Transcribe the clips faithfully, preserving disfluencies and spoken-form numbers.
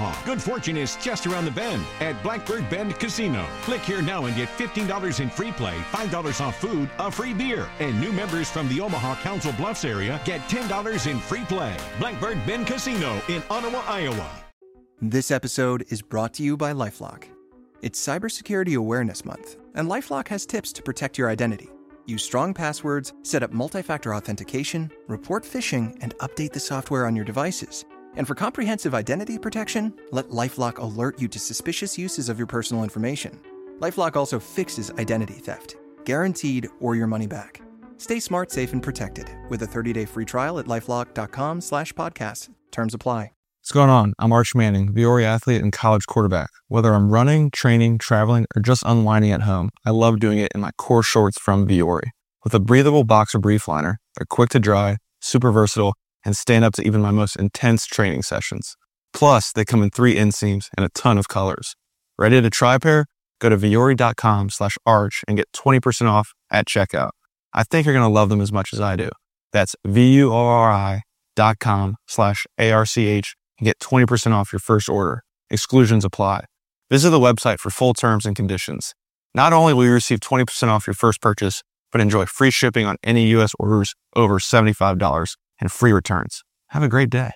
Omaha. Good fortune is just around the bend at Blackbird Bend Casino. Click here now and get fifteen dollars in free play, five dollars off food, a free beer. And new members from the Omaha Council Bluffs area get ten dollars in free play. Blackbird Bend Casino in Ottawa, Iowa. This episode is brought to you by LifeLock. It's Cybersecurity Awareness Month, and LifeLock has tips to protect your identity. Use strong passwords, set up multi-factor authentication, report phishing, and update the software on your devices. And for comprehensive identity protection, let LifeLock alert you to suspicious uses of your personal information. LifeLock also fixes identity theft, guaranteed or your money back. Stay smart, safe, and protected with a thirty-day free trial at LifeLock.com slash podcast. Terms apply. What's going on? I'm Arch Manning, Viore athlete and college quarterback. Whether I'm running, training, traveling, or just unwinding at home, I love doing it in my core shorts from Viore. With a breathable boxer brief liner, they're quick to dry, super versatile, and stand up to even my most intense training sessions. Plus, they come in three inseams and a ton of colors. Ready to try a pair? Go to Viore.com slash arch and get twenty percent off at checkout. I think you're going to love them as much as I do. That's V-U-O-R-I dot com slash A-R-C-H and get twenty percent off your first order. Exclusions apply. Visit the website for full terms and conditions. Not only will you receive twenty percent off your first purchase, but enjoy free shipping on any U S orders over seventy-five dollars and free returns. Have a great day.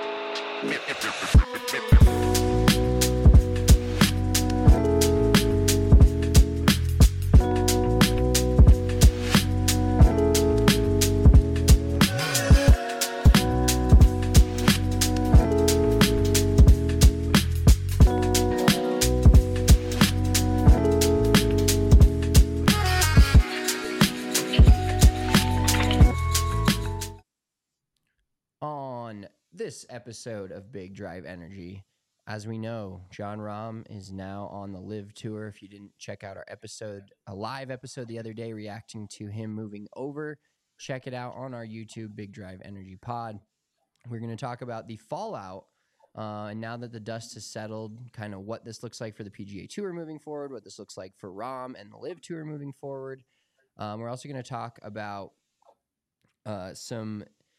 This episode of Big Drive Energy, as we know, Jon Rahm is now on the Live Tour. If you didn't check out our episode, a live episode the other day reacting to him moving over, check it out on our YouTube, Big Drive Energy Pod. We're going to talk about the fallout, uh, and now that the dust has settled, kind of what this looks like for the P G A Tour moving forward, what this looks like for Rahm and the Live Tour moving forward. Um, we're also going to talk about uh, some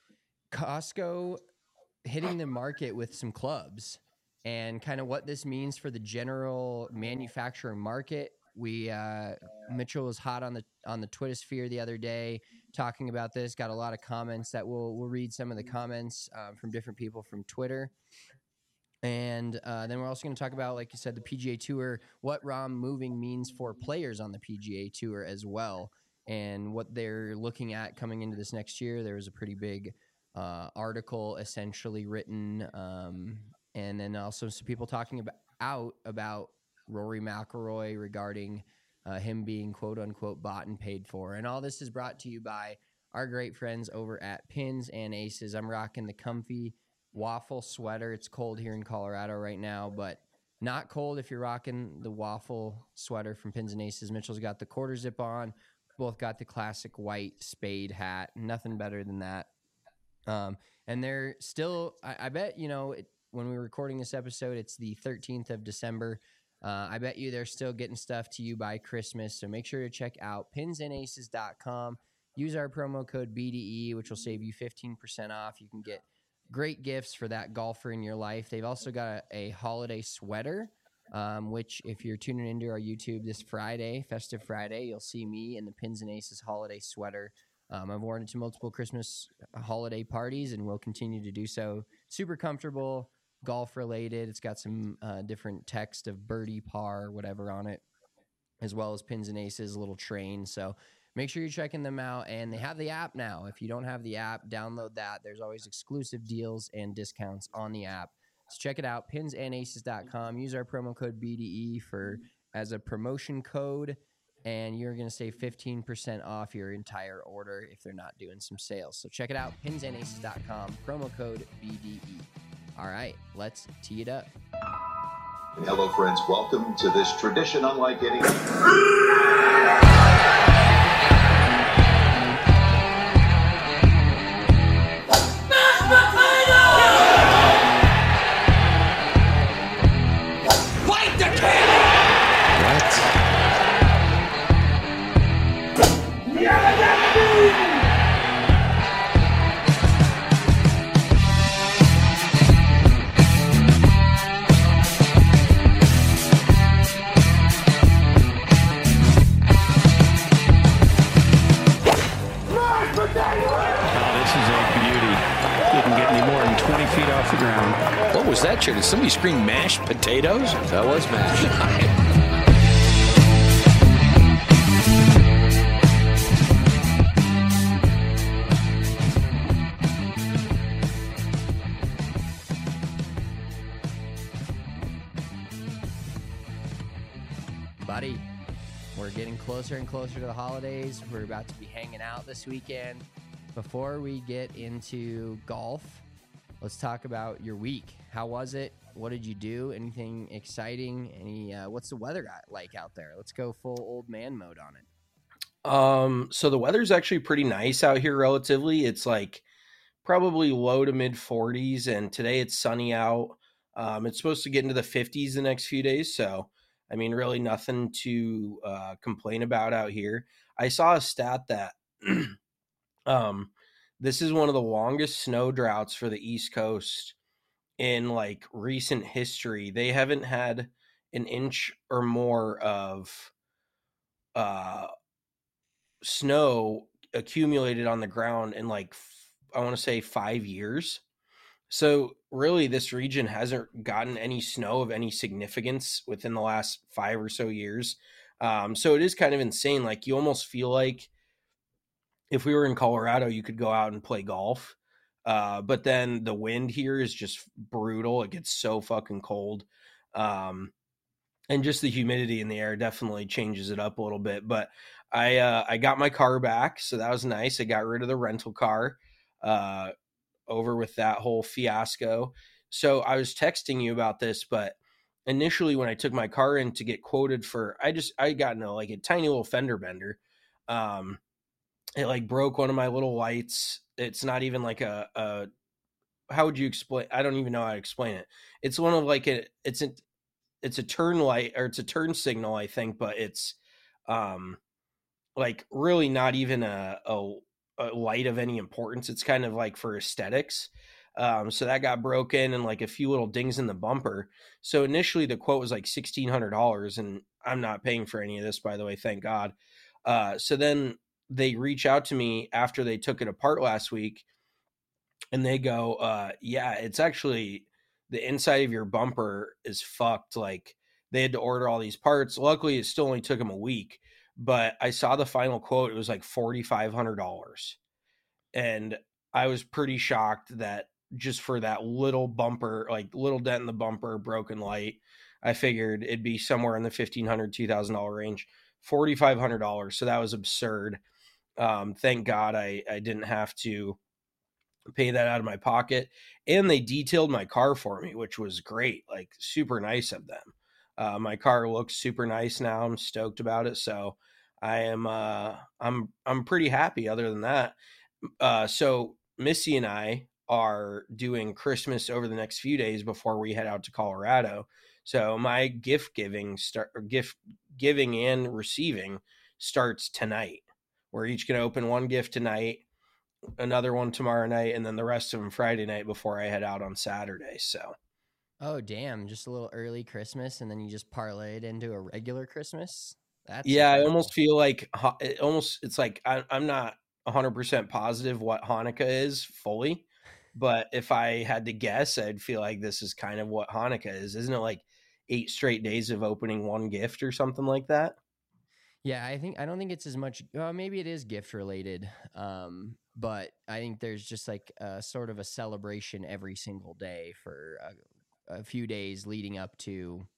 Costco hitting the market with some clubs and kind of what this means for the general manufacturing market. We uh, Mitchell was hot on the on the Twitter sphere the other day talking about this. Got a lot of comments that we'll we'll read some of the comments uh, from different people from Twitter, and uh, then we're also going to talk about, like you said, the P G A Tour, what Rahm moving means for players on the P G A Tour as well, and what they're looking at coming into this next year. There was a pretty big Uh, article essentially written, um, and then also some people talking about out about Rory McIlroy regarding uh, him being quote unquote bought and paid for. And all this is brought to you by our great friends over at Pins and Aces. I'm rocking the comfy waffle sweater. It's cold here in Colorado right now, but not cold if you're rocking the waffle sweater from Pins and Aces. Mitchell's got the quarter zip on. Both got the classic white spade hat. Nothing better than that. Um, and they're still, I, I bet, you know, it, when we're recording this episode, it's the thirteenth of December. Uh, I bet you they're still getting stuff to you by Christmas. So make sure to check out pins and aces dot com. Use our promo code B D E, which will save you fifteen percent off. You can get great gifts for that golfer in your life. They've also got a, a holiday sweater, um, which if you're tuning into our YouTube this Friday, Festive Friday, you'll see me in the Pins and Aces holiday sweater. Um, I've worn it to multiple Christmas holiday parties and will continue to do so. Super comfortable, golf related. It's got some uh, different text of birdie, par, whatever on it, as well as Pins and Aces, a little train. So make sure you're checking them out. And they have the app now. If you don't have the app, download that. There's always exclusive deals and discounts on the app. So check it out, pins and aces dot com. Use our promo code B D E for as a promotion code, and you're going to save fifteen percent off your entire order if they're not doing some sales. So check it out, pins and aces dot com, promo code B D E. All right, let's tee it up. Hello, friends. Welcome to this tradition unlike any... was that, Chair? Did somebody scream mashed potatoes? That was mashed. Buddy, we're getting closer and closer to the holidays. We're about to be hanging out this weekend. Before we get into golf, let's talk about your week. How was it? What did you do? Anything exciting? Any? Uh, what's the weather got like out there? Let's go full old man mode on it. Um, so the weather's actually pretty nice out here relatively. It's like probably low to mid forties, and today it's sunny out. Um, it's supposed to get into the fifties the next few days, so I mean, really nothing to uh, complain about out here. I saw a stat that um, this is one of the longest snow droughts for the East Coast in like recent history. They haven't had an inch or more of uh, snow accumulated on the ground in like, I want to say five years. So really, this region hasn't gotten any snow of any significance within the last five or so years. Um, so it is kind of insane. Like you almost feel like if we were in Colorado, you could go out and play golf. Uh, but then the wind here is just brutal. It gets so fucking cold. Um, and just the humidity in the air definitely changes it up a little bit. But I, uh, I got my car back, so that was nice. I got rid of the rental car. Uh, over with that whole fiasco. So I was texting you about this, but initially when I took my car in to get quoted for, I just, I got no, like a tiny little fender bender. Um, it like broke one of my little lights. It's not even like a, a, how would you explain? I don't even know how to explain it. It's one of like a, it's a, it's a turn light or it's a turn signal, I think, but it's um, like really not even a, a, a light of any importance. It's kind of like for aesthetics. Um, so that got broken and like a few little dings in the bumper. So initially the quote was like sixteen hundred dollars, and I'm not paying for any of this, by the way, thank God. Uh, so then they reach out to me after they took it apart last week and they go, uh, yeah, it's actually the inside of your bumper is fucked. Like they had to order all these parts. Luckily it still only took them a week. But I saw the final quote. It was like four thousand five hundred dollars. And I was pretty shocked that just for that little bumper, like little dent in the bumper, broken light, I figured it'd be somewhere in the fifteen hundred dollars, two thousand dollars range. four thousand five hundred dollars. So that was absurd. Um, thank God I, I didn't have to pay that out of my pocket. And they detailed my car for me, which was great. Like super nice of them. Uh, my car looks super nice now. I'm stoked about it. So I am, uh, I'm, I'm pretty happy other than that. Uh, so Missy and I are doing Christmas over the next few days before we head out to Colorado. So my gift giving start or gift giving and receiving starts tonight. We're each going to open one gift tonight, another one tomorrow night, and then the rest of them Friday night before I head out on Saturday. So. Oh, damn. Just a little early Christmas, and then you just parlay it into a regular Christmas? That's yeah, incredible. I almost feel like it almost it's like I, I'm not one hundred percent positive what Hanukkah is fully, but if I had to guess, I'd feel like this is kind of what Hanukkah is. Isn't it like eight straight days of opening one gift or something like that? Yeah, I think I don't think it's as much. Well, maybe it is gift related, um, but I think there's just like a sort of a celebration every single day for a, a few days leading up to.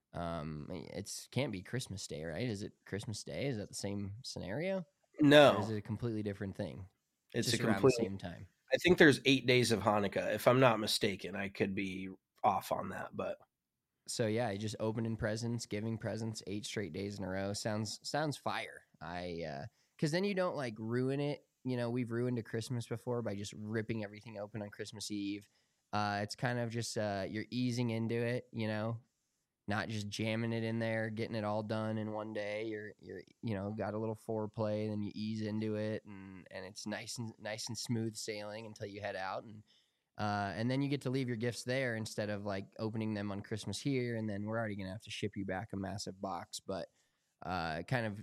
Um, it's can't be Christmas Day, right? Is it Christmas Day? Is that the same scenario? No, or is it a completely different thing? It's just a around complete, the same time. I think there's eight days of Hanukkah, if I'm not mistaken. I could be off on that, but. So yeah, I just opening presents, giving presents eight straight days in a row. Sounds sounds fire. I uh because then you don't like ruin it. You know, we've ruined a Christmas before by just ripping everything open on Christmas Eve. Uh it's kind of just uh you're easing into it, you know, not just jamming it in there, getting it all done in one day. You're you're you know, got a little foreplay, then you ease into it and and it's nice and nice and smooth sailing until you head out and Uh, and then you get to leave your gifts there instead of like opening them on Christmas here. And then we're already going to have to ship you back a massive box, but uh, it kind of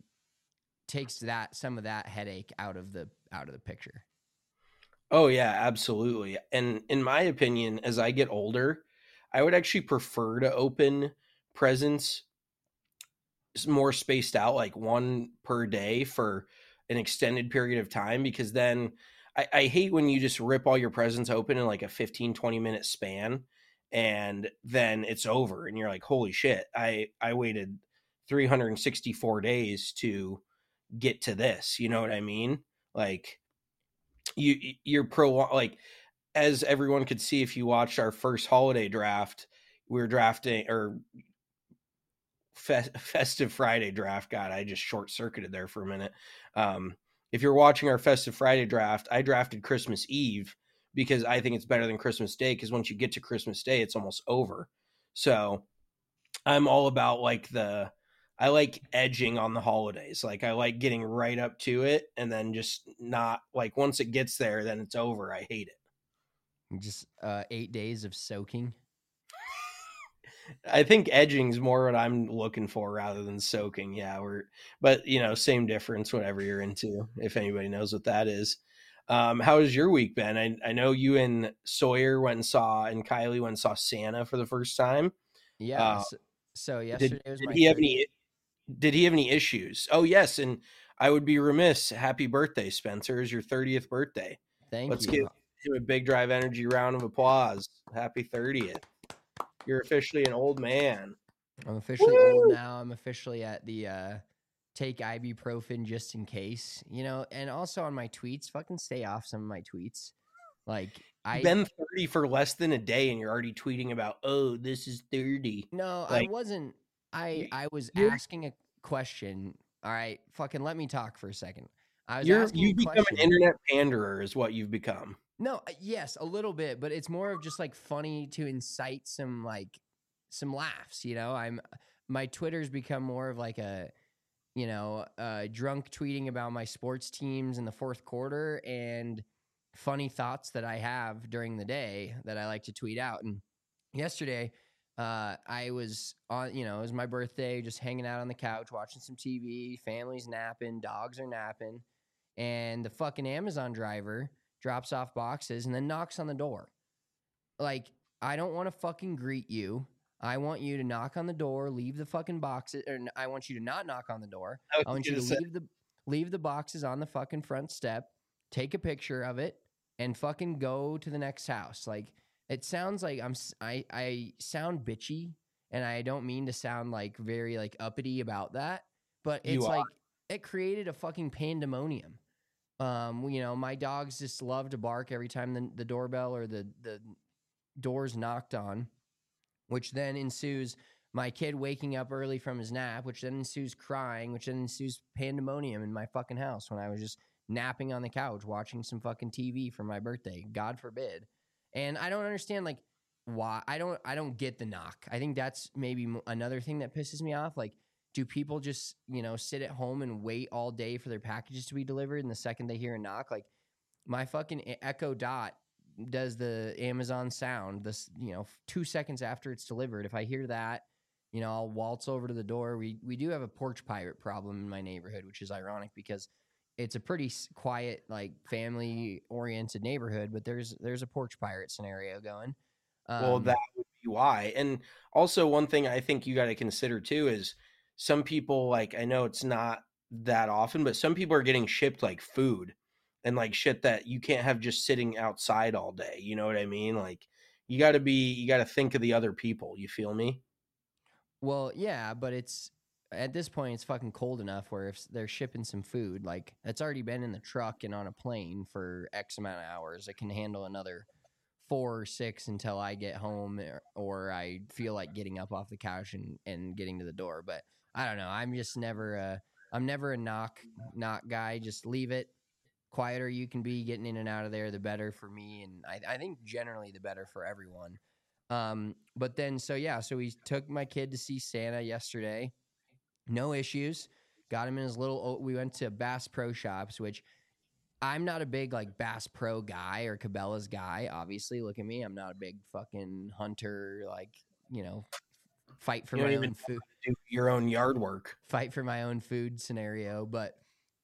takes that, some of that headache out of the, out of the picture. Oh yeah, absolutely. And in my opinion, as I get older, I would actually prefer to open presents more spaced out, like one per day for an extended period of time, because then I, I hate when you just rip all your presents open in like a fifteen, twenty minute span and then it's over and you're like, holy shit, I, I waited three hundred sixty-four days to get to this. You know what I mean? Like you, you're pro, like as everyone could see, if you watched our first holiday draft, we were drafting or Fe- festive Friday draft. God, I just short circuited there for a minute. Um, if you're watching our festive Friday draft, I drafted Christmas Eve because I think it's better than Christmas Day. Because once you get to Christmas Day, it's almost over. So I'm all about like the, I like edging on the holidays. Like I like getting right up to it and then just not like once it gets there, then it's over. I hate it. Just uh, eight days of soaking. I think edging is more what I'm looking for rather than soaking. Yeah, we're, but you know, same difference, whatever you're into, if anybody knows what that is. Um, how has your week been? I, I know you and Sawyer went and saw, and Kylie went and saw Santa for the first time. Yeah. Uh, so, so yesterday did, was did my he have thirtieth. any, did he have any issues? Oh yes. And I would be remiss. Happy birthday, Spencer. It's your thirtieth birthday. Thank Let's you. give him a big Drive Energy round of applause. Happy thirtieth. You're officially an old man. I'm officially Woo! old now. I'm officially at the uh, take ibuprofen just in case, you know, and also on my tweets, fucking stay off some of my tweets. Like I've been thirty for less than a day and you're already tweeting about, oh, this is thirty. No, like, I wasn't. I, I was you're, asking a question. All right, fucking let me talk for a second. I was you're, asking you've a become question. an internet panderer is what you've become. No, yes, a little bit, but it's more of just like funny to incite some like some laughs, you know. I'm my Twitter's become more of like a you know, uh drunk tweeting about my sports teams in the fourth quarter and funny thoughts that I have during the day that I like to tweet out. And yesterday, uh I was on, you know, it was my birthday, just hanging out on the couch watching some T V, family's napping, dogs are napping, and the fucking Amazon driver drops off boxes and then knocks on the door. Like, I don't want to fucking greet you. I want you to knock on the door, leave the fucking boxes, or I want you to not knock on the door. I, I want you to say. leave the leave the boxes on the fucking front step, take a picture of it, and fucking go to the next house. Like, it sounds like I'm I I sound bitchy, and I don't mean to sound like very like uppity about that, but it's like it created a fucking pandemonium. Um, you know, my dogs just love to bark every time the, the doorbell or the, the door's knocked on, which then ensues my kid waking up early from his nap, which then ensues crying, which then ensues pandemonium in my fucking house when I was just napping on the couch watching some fucking T V for my birthday, God forbid. And I don't understand, like, why. I don't I don't get the knock. I think that's maybe another thing that pisses me off. Like, do people just, you know, sit at home and wait all day for their packages to be delivered? And the second they hear a knock, like my fucking Echo Dot does the Amazon sound, this, you know, two seconds after it's delivered. If I hear that, you know, I'll waltz over to the door. We we do have a porch pirate problem in my neighborhood, which is ironic because it's a pretty quiet, like family oriented neighborhood, but there's there's a porch pirate scenario going. Um, well, that would be why. And also one thing I think you got to consider too is some people, like, I know it's not that often, but some people are getting shipped like food and like shit that you can't have just sitting outside all day. You know what I mean? Like, you got to be, you got to think of the other people. You feel me? Well, yeah, but it's at this point, it's fucking cold enough where if they're shipping some food, like it's already been in the truck and on a plane for X amount of hours, it can handle another four or six until I get home or, or I feel like getting up off the couch and, and getting to the door. But I don't know. I'm just never a, I'm never a knock, knock guy. Just leave it. Quieter you can be getting in and out of there, the better for me. And I, I think generally the better for everyone. Um, but then, so yeah, so we took my kid to see Santa yesterday. No issues. Got him in his little, we went to Bass Pro Shops, which I'm not a big like Bass Pro guy or Cabela's guy. Obviously, look at me. I'm not a big fucking hunter, like, you know, fight for you my don't own even food. Do your own yard work. Fight for my own food scenario. But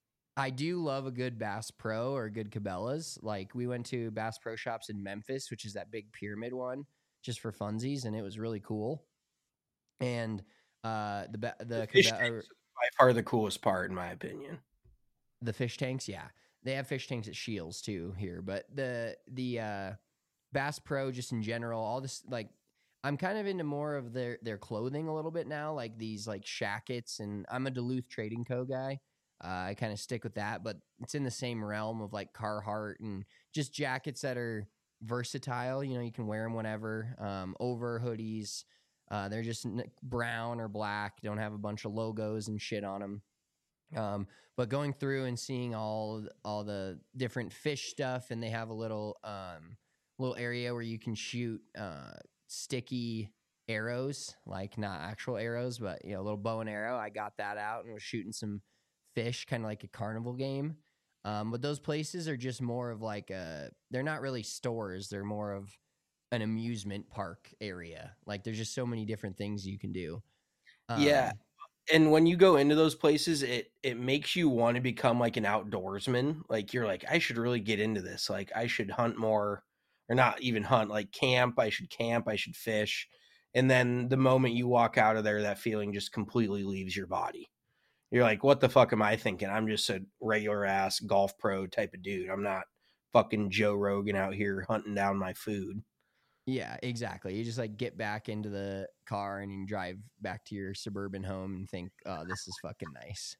I do love a good Bass Pro or a good Cabela's. Like, we went to Bass Pro Shops in Memphis, which is that big pyramid one, just for funsies, and it was really cool. And uh, the the, the fish cabe- tanks are by far the coolest part, in my opinion. The fish tanks, yeah, they have fish tanks at Shields too here, but the the uh, Bass Pro, just in general, all this, like, I'm kind of into more of their their clothing a little bit now, like these like shackets, and I'm a Duluth Trading Co. guy. Uh, I kind of stick with that, but it's in the same realm of like Carhartt and just jackets that are versatile. You know, you can wear them whenever. Um, over hoodies, uh, they're just n- brown or black. Don't have a bunch of logos and shit on them. Um, but going through and seeing all all the different fish stuff, and they have a little um, little area where you can shoot uh, sticky arrows, like not actual arrows, but you know, a little bow and arrow. I got that out and was shooting some fish, kind of like a carnival game. Um, but those places are just more of like a, they're not really stores. They're more of an amusement park area. Like there's just so many different things you can do. Um, yeah. And when you go into those places, it it makes you want to become like an outdoorsman. Like you're like, I should really get into this. Like I should hunt more, or not even hunt, like camp. I should camp. I should fish. And then the moment you walk out of there, that feeling just completely leaves your body. You're like, what the fuck am I thinking? I'm just a regular ass golf pro type of dude. I'm not fucking Joe Rogan out here hunting down my food. Yeah, exactly. You just like get back into the car and you drive back to your suburban home and think, oh, this is fucking nice.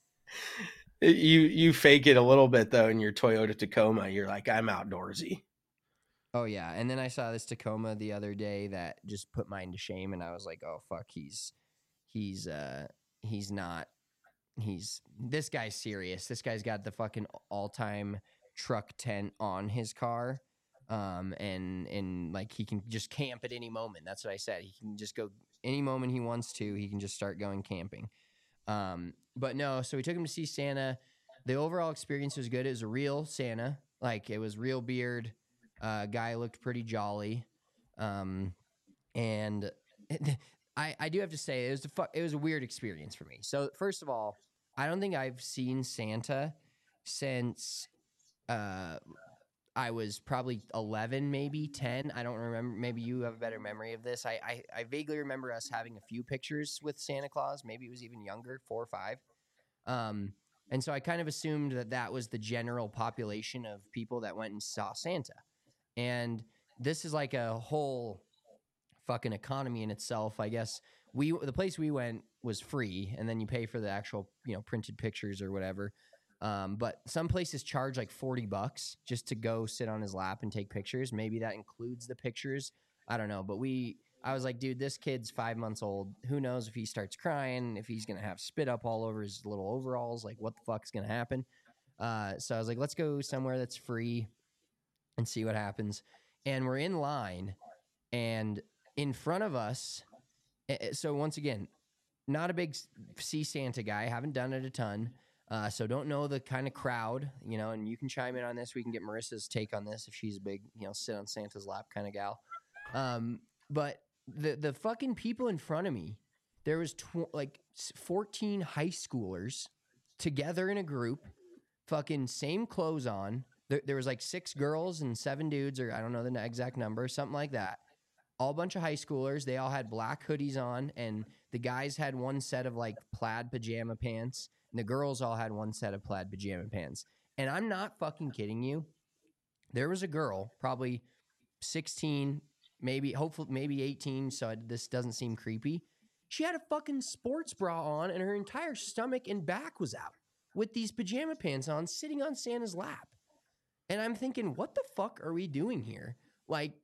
You you fake it a little bit though in your Toyota Tacoma. You're like, I'm outdoorsy. Oh yeah, and then I saw this Tacoma the other day that just put mine to shame, and I was like, oh fuck, he's he's uh he's not he's this guy's serious. This guy's got the fucking all-time truck tent on his car. Um, and, and like, he can just camp at any moment. That's what I said. He can just go any moment he wants to, he can just start going camping. Um, but no, so we took him to see Santa. The overall experience was good. It was a real Santa. Like it was real beard. Uh, guy looked pretty jolly. Um, and I, I do have to say it was a fu- it was a weird experience for me. So first of all, I don't think I've seen Santa since, uh, I was probably eleven, maybe ten. I don't remember. Maybe you have a better memory of this. I, I, I vaguely remember us having a few pictures with Santa Claus. Maybe it was even younger, four or five. Um, and so I kind of assumed that that was the general population of people that went and saw Santa. And this is like a whole fucking economy in itself, I guess. We the place we went was free, and then you pay for the actual, you know, printed pictures or whatever. Um, but some places charge like forty bucks just to go sit on his lap and take pictures. Maybe that includes the pictures. I don't know. But we, I was like, dude, this kid's five months old. Who knows if he starts crying, if he's going to have spit up all over his little overalls, like what the fuck's going to happen? Uh, so I was like, let's go somewhere that's free and see what happens. And we're in line, and in front of us. So once again, not a big see Santa guy. Haven't done it a ton. Uh, so don't know the kind of crowd, you know, and you can chime in on this. We can get Marissa's take on this if she's a big, you know, sit on Santa's lap kind of gal. Um, but the the fucking people in front of me, there was tw- like fourteen high schoolers together in a group, fucking same clothes on. There, there was like six girls and seven dudes, or I don't know the exact number, something like that. All a bunch of high schoolers. They all had black hoodies on, and the guys had one set of like plaid pajama pants. And the girls all had one set of plaid pajama pants. And I'm not fucking kidding you. There was a girl, probably sixteen, maybe, hopefully, maybe eighteen, so this doesn't seem creepy. She had a fucking sports bra on, and her entire stomach and back was out with these pajama pants on, sitting on Santa's lap. And I'm thinking, what the fuck are we doing here? Like,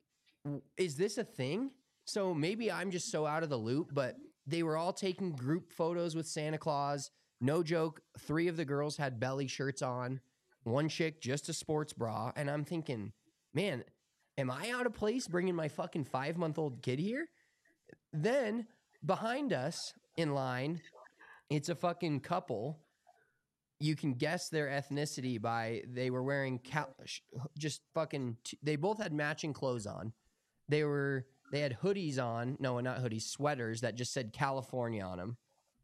is this a thing? So maybe I'm just so out of the loop, but they were all taking group photos with Santa Claus. No joke, three of the girls had belly shirts on, one chick just a sports bra, and I'm thinking, man, am I out of place bringing my fucking five-month-old kid here? Then, behind us in line, it's a fucking couple. You can guess their ethnicity by they were wearing cal- just fucking, t- they both had matching clothes on. They were, they had hoodies on, no, not hoodies, sweaters that just said California on them.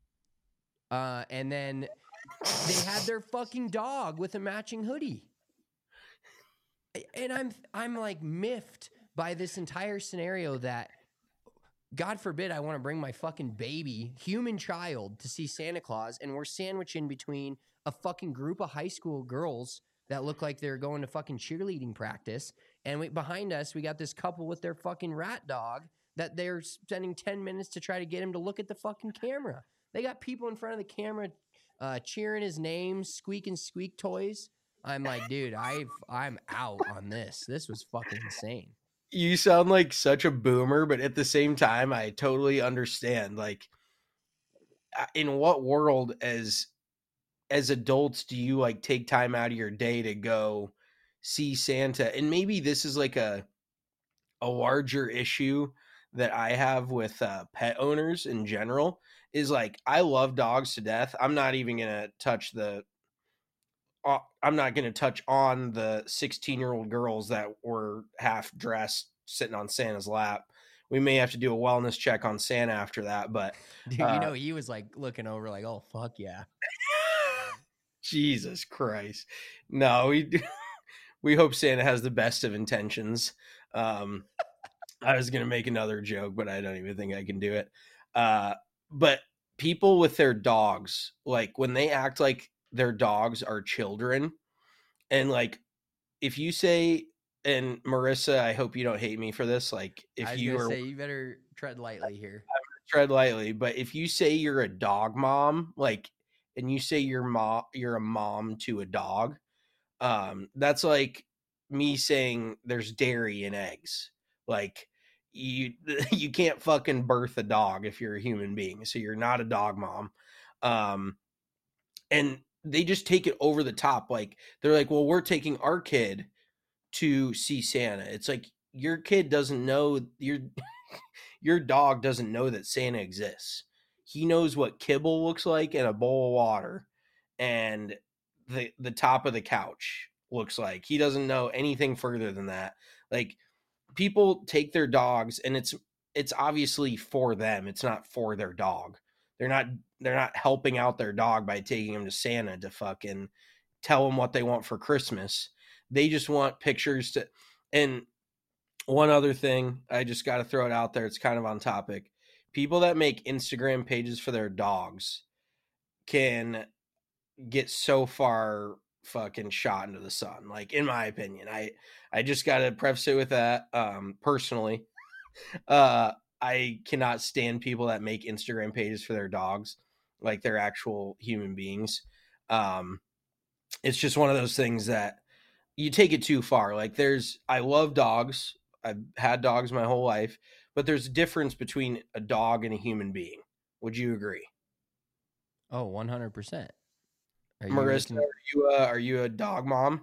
Uh, and then they had their fucking dog with a matching hoodie. And I'm I'm like miffed by this entire scenario that, God forbid, I want to bring my fucking baby, human child, to see Santa Claus, and we're sandwiched in between a fucking group of high school girls that look like they're going to fucking cheerleading practice, and we, behind us, we got this couple with their fucking rat dog that they're spending ten minutes to try to get him to look at the fucking camera. They got people in front of the camera uh, cheering his name, squeaking squeak toys. I'm like, dude, I've, I'm out on this. This was fucking insane. You sound like such a boomer, but at the same time, I totally understand. Like, in what world as as adults do you like take time out of your day to go see Santa? And maybe this is like a a larger issue that I have with uh, pet owners in general. Is like, I love dogs to death. I'm not even gonna touch the. Uh, I'm not going to touch on the sixteen-year-old girls that were half-dressed sitting on Santa's lap. We may have to do a wellness check on Santa after that, but... Dude, uh, you know, he was, like, looking over like, oh, fuck yeah. Jesus Christ. No, we we hope Santa has the best of intentions. Um, I was going to make another joke, but I don't even think I can do it. Uh, but people with their dogs, like, when they act like their dogs are children, and like, if you say, and Marissa, I hope you don't hate me for this, like, if I was you gonna are say, you better tread lightly here. tread lightly, but if you say you're a dog mom, like, and you say you're mom you're a mom to a dog, um that's like me saying there's dairy in eggs. Like, you you can't fucking birth a dog if you're a human being, so you're not a dog mom. Um and they just take it over the top. Like, they're like, well, we're taking our kid to see Santa. It's like, your kid doesn't know, your your dog doesn't know that Santa exists. He knows what kibble looks like and a bowl of water and the the top of the couch looks like. He doesn't know anything further than that. Like, people take their dogs, and it's it's obviously for them. It's not for their dog. They're not they're not helping out their dog by taking him to Santa to fucking tell them what they want for Christmas. They just want pictures to. And one other thing, I just got to throw it out there. It's kind of on topic. People that make Instagram pages for their dogs can get so far fucking shot into the sun. Like, in my opinion, I, I just got to preface it with that. Um, personally, uh, I cannot stand people that make Instagram pages for their dogs like they're actual human beings. Um, it's just one of those things that you take it too far. Like, there's, I love dogs. I've had dogs my whole life, but there's a difference between a dog and a human being. Would you agree? Oh, one hundred percent. Are Marissa, looking... are you a, are you a dog mom?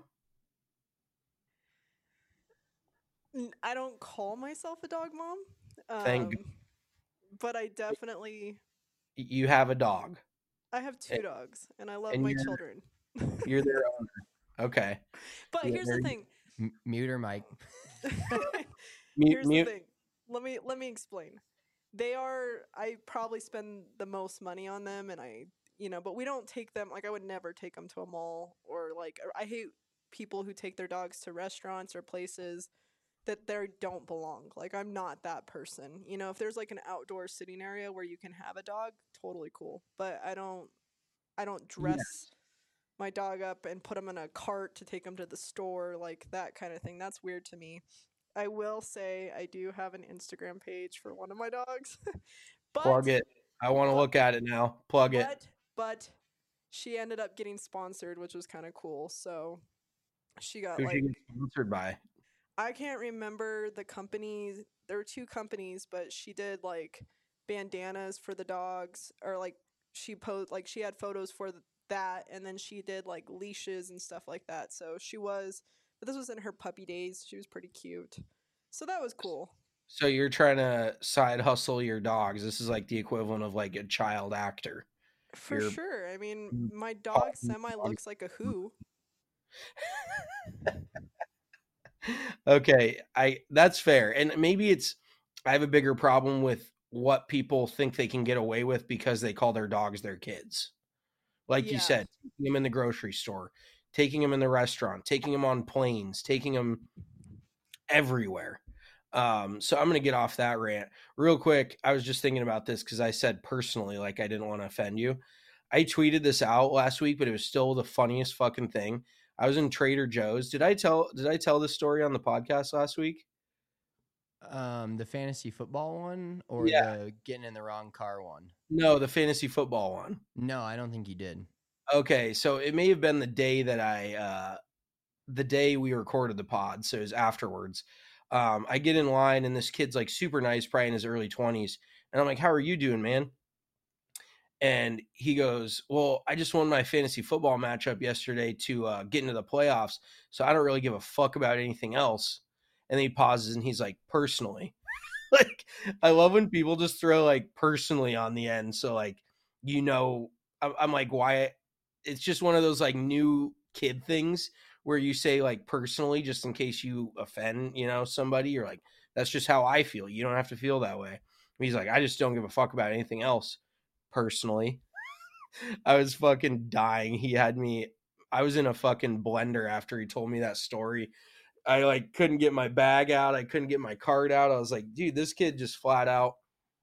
I don't call myself a dog mom. Um, Thank but I definitely... You have a dog. I have two and, dogs, and I love my you're, children. You're their owner. Okay. But yeah, here's the thing. M- mute her mic. Here's mute. the thing. Let me let me explain. They are, I probably spend the most money on them, and I, you know, but we don't take them, like, I would never take them to a mall, or like, I hate people who take their dogs to restaurants or places that they don't belong. Like, I'm not that person. You know, if there's like an outdoor sitting area where you can have a dog, totally cool. But I don't, I don't dress yes. my dog up and put him in a cart to take him to the store, like that kind of thing. That's weird to me. I will say I do have an Instagram page for one of my dogs. but, Plug it. I want to look at it now. Plug but, it. But she ended up getting sponsored, which was kind of cool. So she got Who'd like... she get sponsored by? I can't remember the companies. There were two companies, but she did like bandanas for the dogs, or like she posed, like she had photos for the, that, and then she did like leashes and stuff like that. So she was, but this was in her puppy days. She was pretty cute. So that was cool. So you're trying to side hustle your dogs. This is like the equivalent of like a child actor. For you're... sure. I mean, my dog semi looks like a who. Okay, I that's fair. And maybe it's I have a bigger problem with what people think they can get away with because they call their dogs their kids. Like yeah. you said, taking them in the grocery store, taking them in the restaurant, taking them on planes, taking them everywhere. Um, so I'm going to get off that rant real quick. I was just thinking about this because I said personally, like I didn't want to offend you. I tweeted this out last week, but it was still the funniest fucking thing. I was in Trader Joe's. Did I tell, did I tell this story on the podcast last week? Um, the fantasy football one or Yeah. the getting in the wrong car one? No, the fantasy football one. No, I don't think you did. Okay. So it may have been the day that I, uh, the day we recorded the pod. So it was afterwards. Um, I get in line and this kid's like super nice, probably in his early twenties. And I'm like, how are you doing, man? And he goes, well, I just won my fantasy football matchup yesterday to uh, get into the playoffs. So I don't really give a fuck about anything else. And then he pauses and he's like, personally. Like, I love when people just throw like personally on the end. So like, you know, I'm, I'm like, why? It's just one of those like new kid things where you say like personally, just in case you offend, you know, somebody. You're like, that's just how I feel. You don't have to feel that way. And he's like, I just don't give a fuck about anything else. Personally. I was fucking dying. He had me, I was in a fucking blender after he told me that story. I like couldn't get my bag out. I couldn't get my card out. I was like, dude, this kid just flat out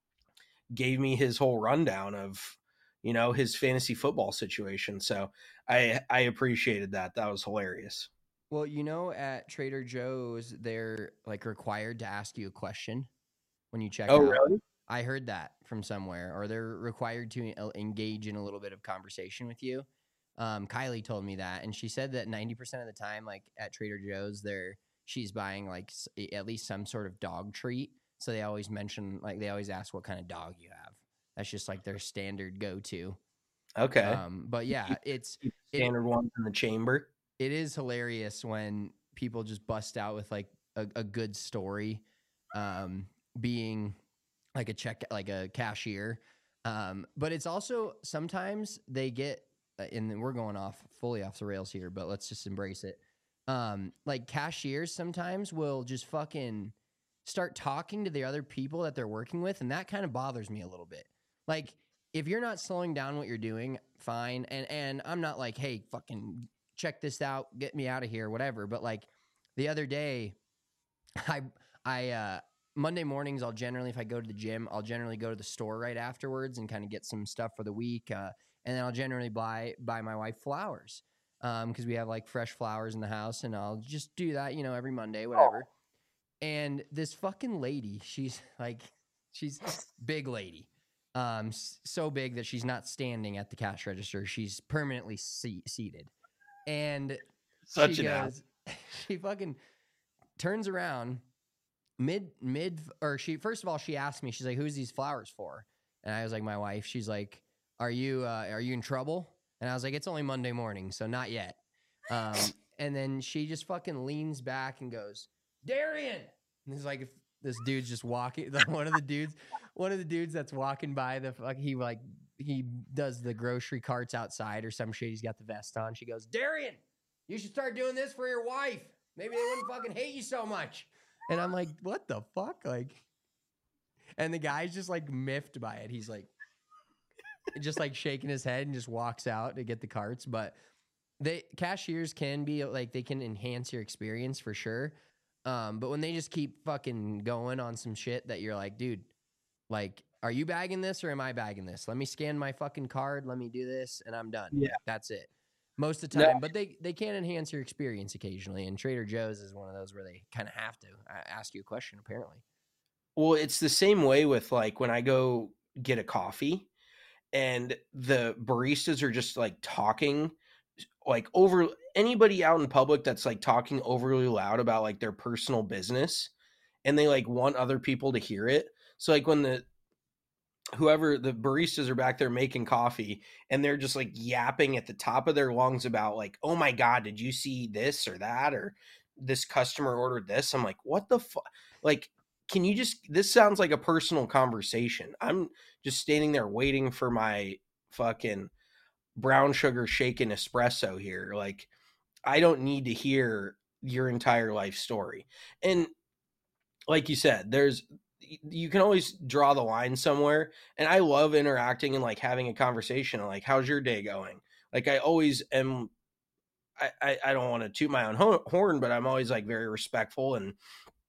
gave me his whole rundown of, you know, his fantasy football situation. So I, I appreciated that. That was hilarious. Well, you know, at Trader Joe's, they're like required to ask you a question when you check Oh, out. really? I heard that from somewhere, or they're required to engage in a little bit of conversation with you. Um, Kylie told me that, and she said that ninety percent of the time, like at Trader Joe's, there she's buying like at least some sort of dog treat. So they always mention, like they always ask what kind of dog you have. That's just like their standard go-to. Okay. Um, but yeah, it's standard it, ones in the chamber. It is hilarious when people just bust out with like a, a good story, um, being like a check, like a cashier. Um, but it's also sometimes they get, and we're going off fully off the rails here, but let's just embrace it. Um, like cashiers sometimes will just fucking start talking to the other people that they're working with. And that kind of bothers me a little bit. Like if you're not slowing down what you're doing, fine. And, and I'm not like, hey, fucking check this out, get me out of here, whatever. But like the other day, I, I, uh, Monday mornings, I'll generally, if I go to the gym, I'll generally go to the store right afterwards and kind of get some stuff for the week. Uh, and then I'll generally buy, buy my wife flowers. Um, cause we have like fresh flowers in the house, and I'll just do that, you know, every Monday, whatever. Oh. And this fucking lady, she's like, she's big lady. Um, so big that she's not standing at the cash register. She's permanently se- seated. And Such she an goes, she fucking turns around mid, mid, or she, first of all, she asked me, she's like, who's these flowers for? And I was like, my wife. She's like, are you, uh, are you in trouble? And I was like, it's only Monday morning, so not yet. Um, and then she just fucking leans back and goes, Darian. And it's like, if this dude's just walking, one of the dudes, one of the dudes that's walking by the fuck, he like, he does the grocery carts outside or some shit. He's got the vest on. She goes, Darian, you should start doing this for your wife. Maybe they wouldn't fucking hate you so much. And I'm like, what the fuck? Like, and the guy's just like miffed by it. He's like, just like shaking his head and just walks out to get the carts. But they cashiers can be like, they can enhance your experience for sure. Um, but when they just keep fucking going on some shit that you're like, dude, like, are you bagging this or am I bagging this? Let me scan my fucking card. Let me do this and I'm done. Yeah. That's it. Most of the time, No. but they, they can enhance your experience occasionally. And Trader Joe's is one of those where they kind of have to ask you a question, apparently. Well, it's the same way with like when I go get a coffee and the baristas are just like talking like over anybody out in public that's like talking overly loud about like their personal business, and they like want other people to hear it. So like when the whoever the baristas are back there making coffee and they're just like yapping at the top of their lungs about like, oh my God, did you see this or that? Or this customer ordered this. I'm like, what the fuck? Like, can you just, this sounds like a personal conversation. I'm just standing there waiting for my fucking brown sugar shaken espresso here. Like, I don't need to hear your entire life story. And like you said, there's, you can always draw the line somewhere. And I love interacting and like having a conversation. Like, how's your day going? Like, I always am, I, I, I don't want to toot my own horn, but I'm always like very respectful and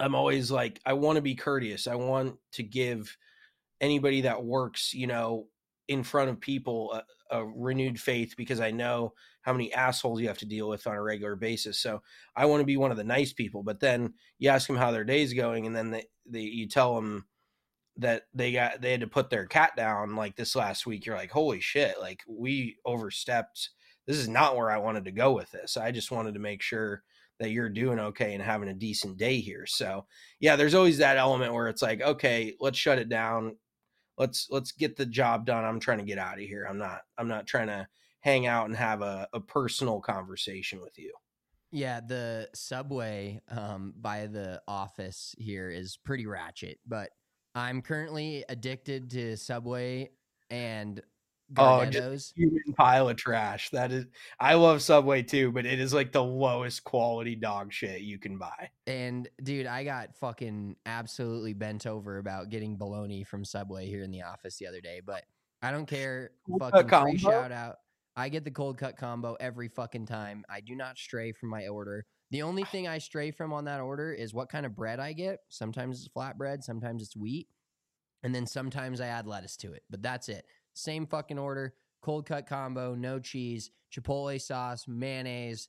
I'm always like, I want to be courteous. I want to give anybody that works, you know, in front of people a, a renewed faith, because I know how many assholes you have to deal with on a regular basis. So I want to be one of the nice people. But then you ask them how their day's going, and then they, they you tell them that they got they had to put their cat down like this last week. You're like, holy shit, like we overstepped. This is not where I wanted to go with this. I just wanted to make sure that you're doing okay and having a decent day here. So yeah, there's always that element where it's like, okay, let's shut it down. Let's let's get the job done. I'm trying to get out of here. I'm not I'm not trying to hang out and have a, a personal conversation with you. Yeah, the subway um, by the office here is pretty ratchet, but I'm currently addicted to Subway and Oh, Gardetto's. just a human pile of trash. That is, I love Subway too, but it is like the lowest quality dog shit you can buy. And dude, I got fucking absolutely bent over about getting bologna from Subway here in the office the other day, but I don't care. Cold Fucking cut free combo? shout out. I get the cold cut combo every fucking time. I do not stray from my order. The only thing I stray from on that order is what kind of bread I get. Sometimes it's flatbread, sometimes it's wheat, and then sometimes I add lettuce to it. But that's it. Same fucking order, cold cut combo, no cheese, chipotle sauce, mayonnaise,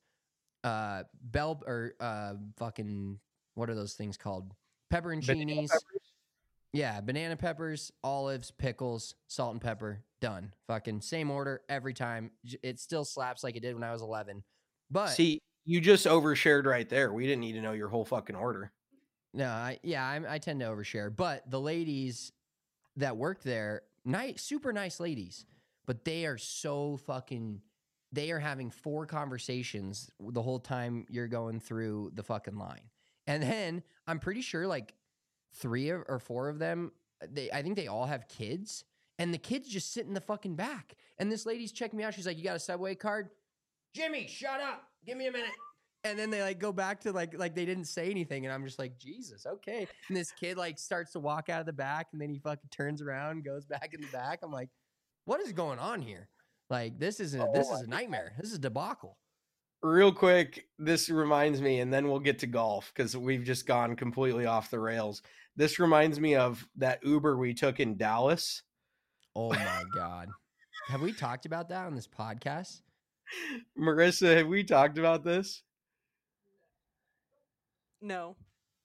uh, bell or uh, fucking what are those things called? Pepperoncinis. Yeah, banana peppers, olives, pickles, salt and pepper. Done. Fucking same order every time. It still slaps like it did when I was eleven. But see, you just overshared right there. We didn't need to know your whole fucking order. No, I yeah, I, I tend to overshare. But the ladies that work there, nice, super nice ladies, but they are so fucking. They are having four conversations the whole time you're going through the fucking line, and then I'm pretty sure like three or four of them, they I think they all have kids, and the kids just sit in the fucking back. And this lady's checking me out. She's like, "You got a Subway card?" Jimmy, shut up. Give me a minute. And then they like go back to like like they didn't say anything, and I'm just like, Jesus, okay. And this kid like starts to walk out of the back, and then he fucking turns around, goes back in the back. I'm like, what is going on here? Like this is a, this is a nightmare. This is a debacle. Real quick, this reminds me, and then we'll get to golf because we've just gone completely off the rails. This reminds me of that Uber we took in Dallas. Oh my God. Have we talked about that on this podcast? Marissa, have we talked about this? No.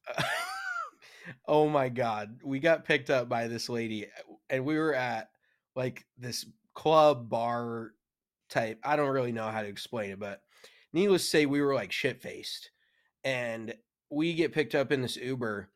Oh my God. We got picked up by this lady, and we were at like this club bar type. I don't really know how to explain it, but needless to say, we were like shit faced, and we get picked up in this Uber,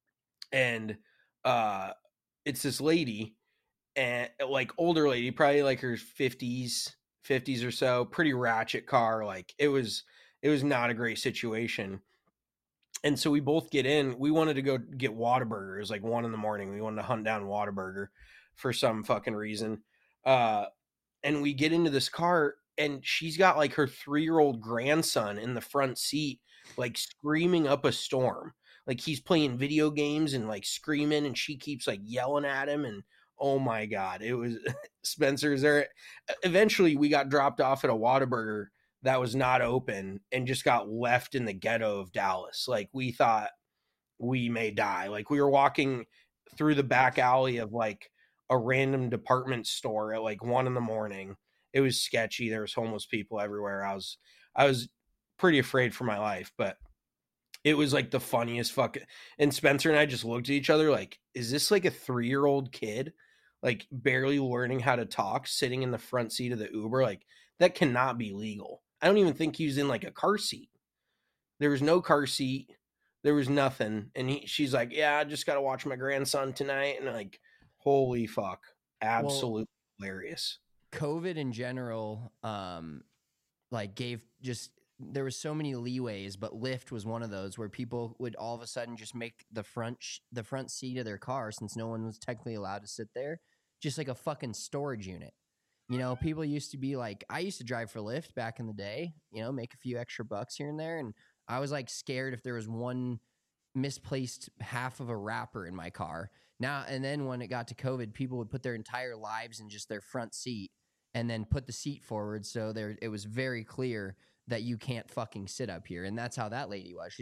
and uh, it's this lady, and like older lady, probably like her fifties, fifties or so, pretty ratchet car. Like it was, it was not a great situation. And so we both get in. We wanted to go get Whataburger. It was like one in the morning. We wanted to hunt down Whataburger for some fucking reason. Uh, and we get into this car, and she's got like her three-year-old grandson in the front seat, like screaming up a storm. Like he's playing video games and like screaming, and she keeps like yelling at him. And oh my God, it was Spencer's there. Eventually we got dropped off at a Whataburger that was not open and just got left in the ghetto of Dallas. Like we thought we may die. Like we were walking through the back alley of like a random department store at like one in the morning. It was sketchy. There was homeless people everywhere. I was, I was pretty afraid for my life, but it was like the funniest fucking, and Spencer and I just looked at each other like, is this like a three-year-old kid, like barely learning how to talk, sitting in the front seat of the Uber? Like that cannot be legal. I don't even think he was in like a car seat. There was no car seat. There was nothing. And he, she's like, yeah, I just got to watch my grandson tonight. And like, holy fuck. Absolutely well, hilarious. COVID in general, um, like gave just, there was so many leeways, but Lyft was one of those where people would all of a sudden just make the front, sh- the front seat of their car, since no one was technically allowed to sit there, just like a fucking storage unit. You know, people used to be like, I used to drive for Lyft back in the day, you know, make a few extra bucks here and there. And I was like scared if there was one misplaced half of a wrapper in my car. Now, and then when it got to COVID, people would put their entire lives in just their front seat and then put the seat forward. So there, it was very clear that you can't fucking sit up here. And that's how that lady was. She's like,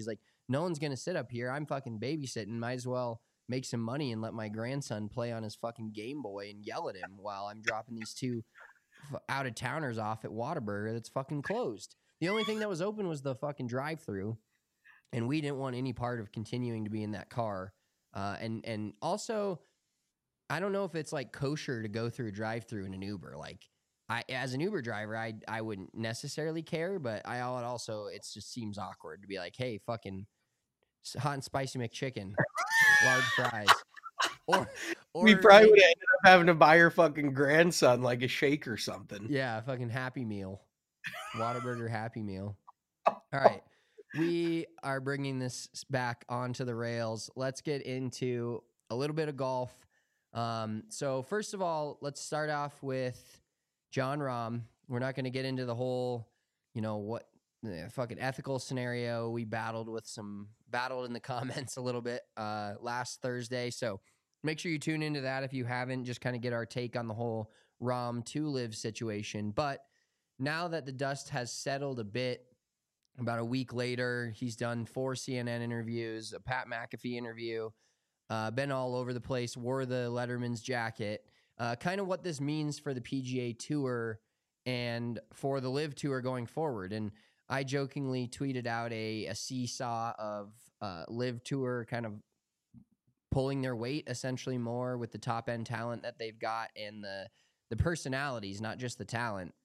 no one's going to sit up here. I'm fucking babysitting. Might as well make some money and let my grandson play on his fucking Game Boy and yell at him while I'm dropping these two f- out-of-towners off at Whataburger that's fucking closed. The only thing that was open was the fucking drive-thru, and we didn't want any part of continuing to be in that car. Uh, and and also, I don't know if it's like kosher to go through a drive-thru in an Uber. Like, I as an Uber driver, I I wouldn't necessarily care, but I also it just seems awkward to be like, hey, fucking hot and spicy McChicken, large fries. Or, or we probably would have ended up having to buy your fucking grandson like a shake or something. Yeah, fucking Happy Meal. Whataburger Happy Meal. All right. We are bringing this back onto the rails. Let's get into a little bit of golf. Um, so first of all, let's start off with Jon Rahm. We're not going to get into the whole, you know, what the fucking ethical scenario. We battled with some battled in the comments a little bit uh, last Thursday. So make sure you tune into that if you haven't, just kind of get our take on the whole Rahm to live situation. But now that the dust has settled a bit, about a week later, he's done four C N N interviews, a Pat McAfee interview, uh, been all over the place, wore the Letterman's jacket. Uh, kind of what this means for the P G A Tour and for the Live Tour going forward. And I jokingly tweeted out a, a seesaw of uh, Live Tour kind of pulling their weight essentially more with the top end talent that they've got and the the personalities, not just the talent.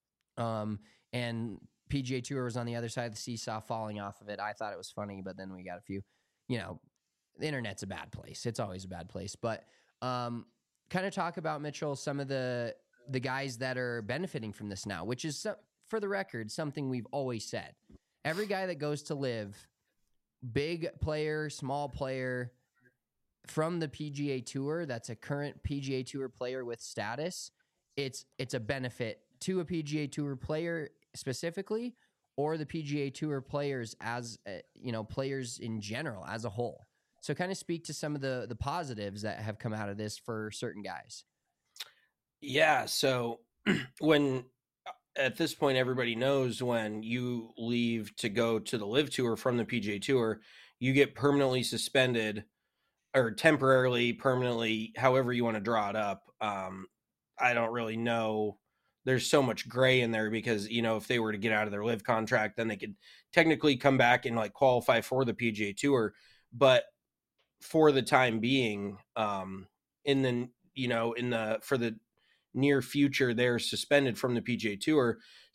Um, and P G A Tour was on the other side of the seesaw falling off of it. I thought it was funny, but then we got a few, you know, the internet's a bad place. It's always a bad place. But um, kind of talk about, Mitchell, some of the the guys that are benefiting from this now, which is, for the record, something we've always said. Every guy that goes to Live, big player, small player, from the P G A Tour, that's a current P G A Tour player with status, it's it's a benefit to a P G A Tour player specifically, or the P G A Tour players as, uh, you know, players in general as a whole. So kind of speak to some of the the positives that have come out of this for certain guys. Yeah. So when at this point, everybody knows when you leave to go to the Live Tour from the P G A Tour, you get permanently suspended or temporarily, permanently, however you want to draw it up. Um, I don't really know. There's so much gray in there because, you know, if they were to get out of their Live contract, then they could technically come back and like qualify for the P G A Tour. But for the time being, um, in the, you know, in the, for the near future, they're suspended from the P G A Tour.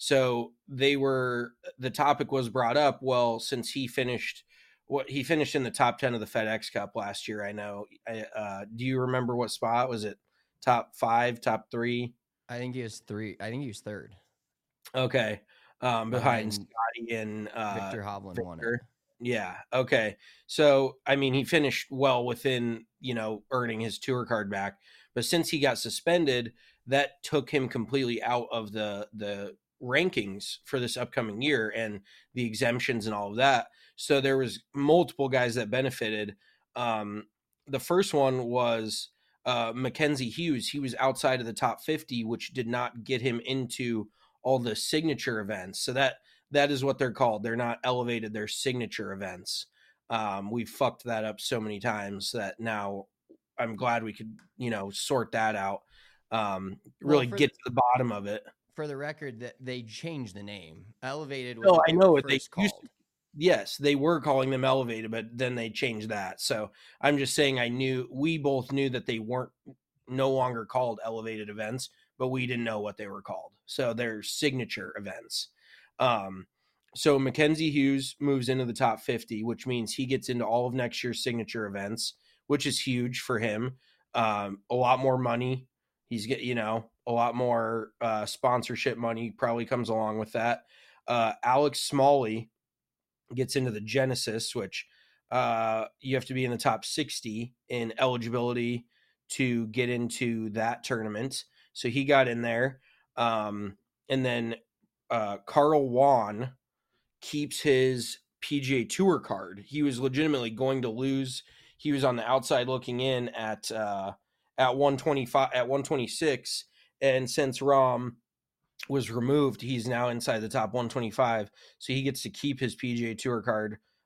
So they were, the topic was brought up. Well, since he finished what he finished in the top ten of the FedEx Cup last year, I know. Uh, do you remember what spot? Was it top five, top three? I think he was three. I think he was third. Okay. Um, behind, behind Scotty and uh, Victor Hovland Victor. won it. Yeah. Okay. So, I mean, he finished well within, you know, earning his tour card back. But since he got suspended, that took him completely out of the the rankings for this upcoming year and the exemptions and all of that. So there was multiple guys that benefited. Um, the first one was uh, Mackenzie Hughes. He was outside of the top fifty, which did not get him into all the signature events. So that that is what they're called. They're not elevated, they're signature events. Um, we fucked that up so many times that now I'm glad we could, you know, sort that out. Um, really well, get the, to the bottom of it. For the record, that they changed the name. Elevated was no, what I they know were what they first used called. to. Yes, they were calling them elevated, but then they changed that. So I'm just saying I knew, we both knew that they weren't no longer called elevated events, but we didn't know what they were called. So they're signature events. Um, so Mackenzie Hughes moves into the top fifty, which means he gets into all of next year's signature events, which is huge for him. Um, a lot more money. He's get, you know, a lot more uh, sponsorship money probably comes along with that. Uh, Alex Smalley gets into the Genesis, which uh, you have to be in the top sixty in eligibility to get into that tournament. So he got in there. Um, and then uh, Carl Wan keeps his P G A Tour card. He was legitimately going to lose. He was on the outside looking in at uh, at one twenty-five, at one twenty-six. And since Rahm was removed, he's now inside the top one twenty-five. So he gets to keep his P G A Tour card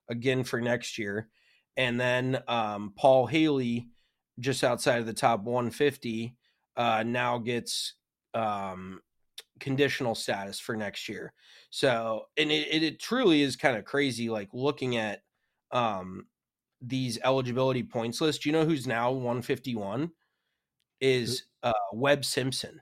again for next year. And then um, Paul Haley, just outside of the top one fifty, uh, now gets um, conditional status for next year. So, and it, it, it truly is kind of crazy, like looking at um, these eligibility points list. You know who's now one fifty-one is uh, Webb Simpson.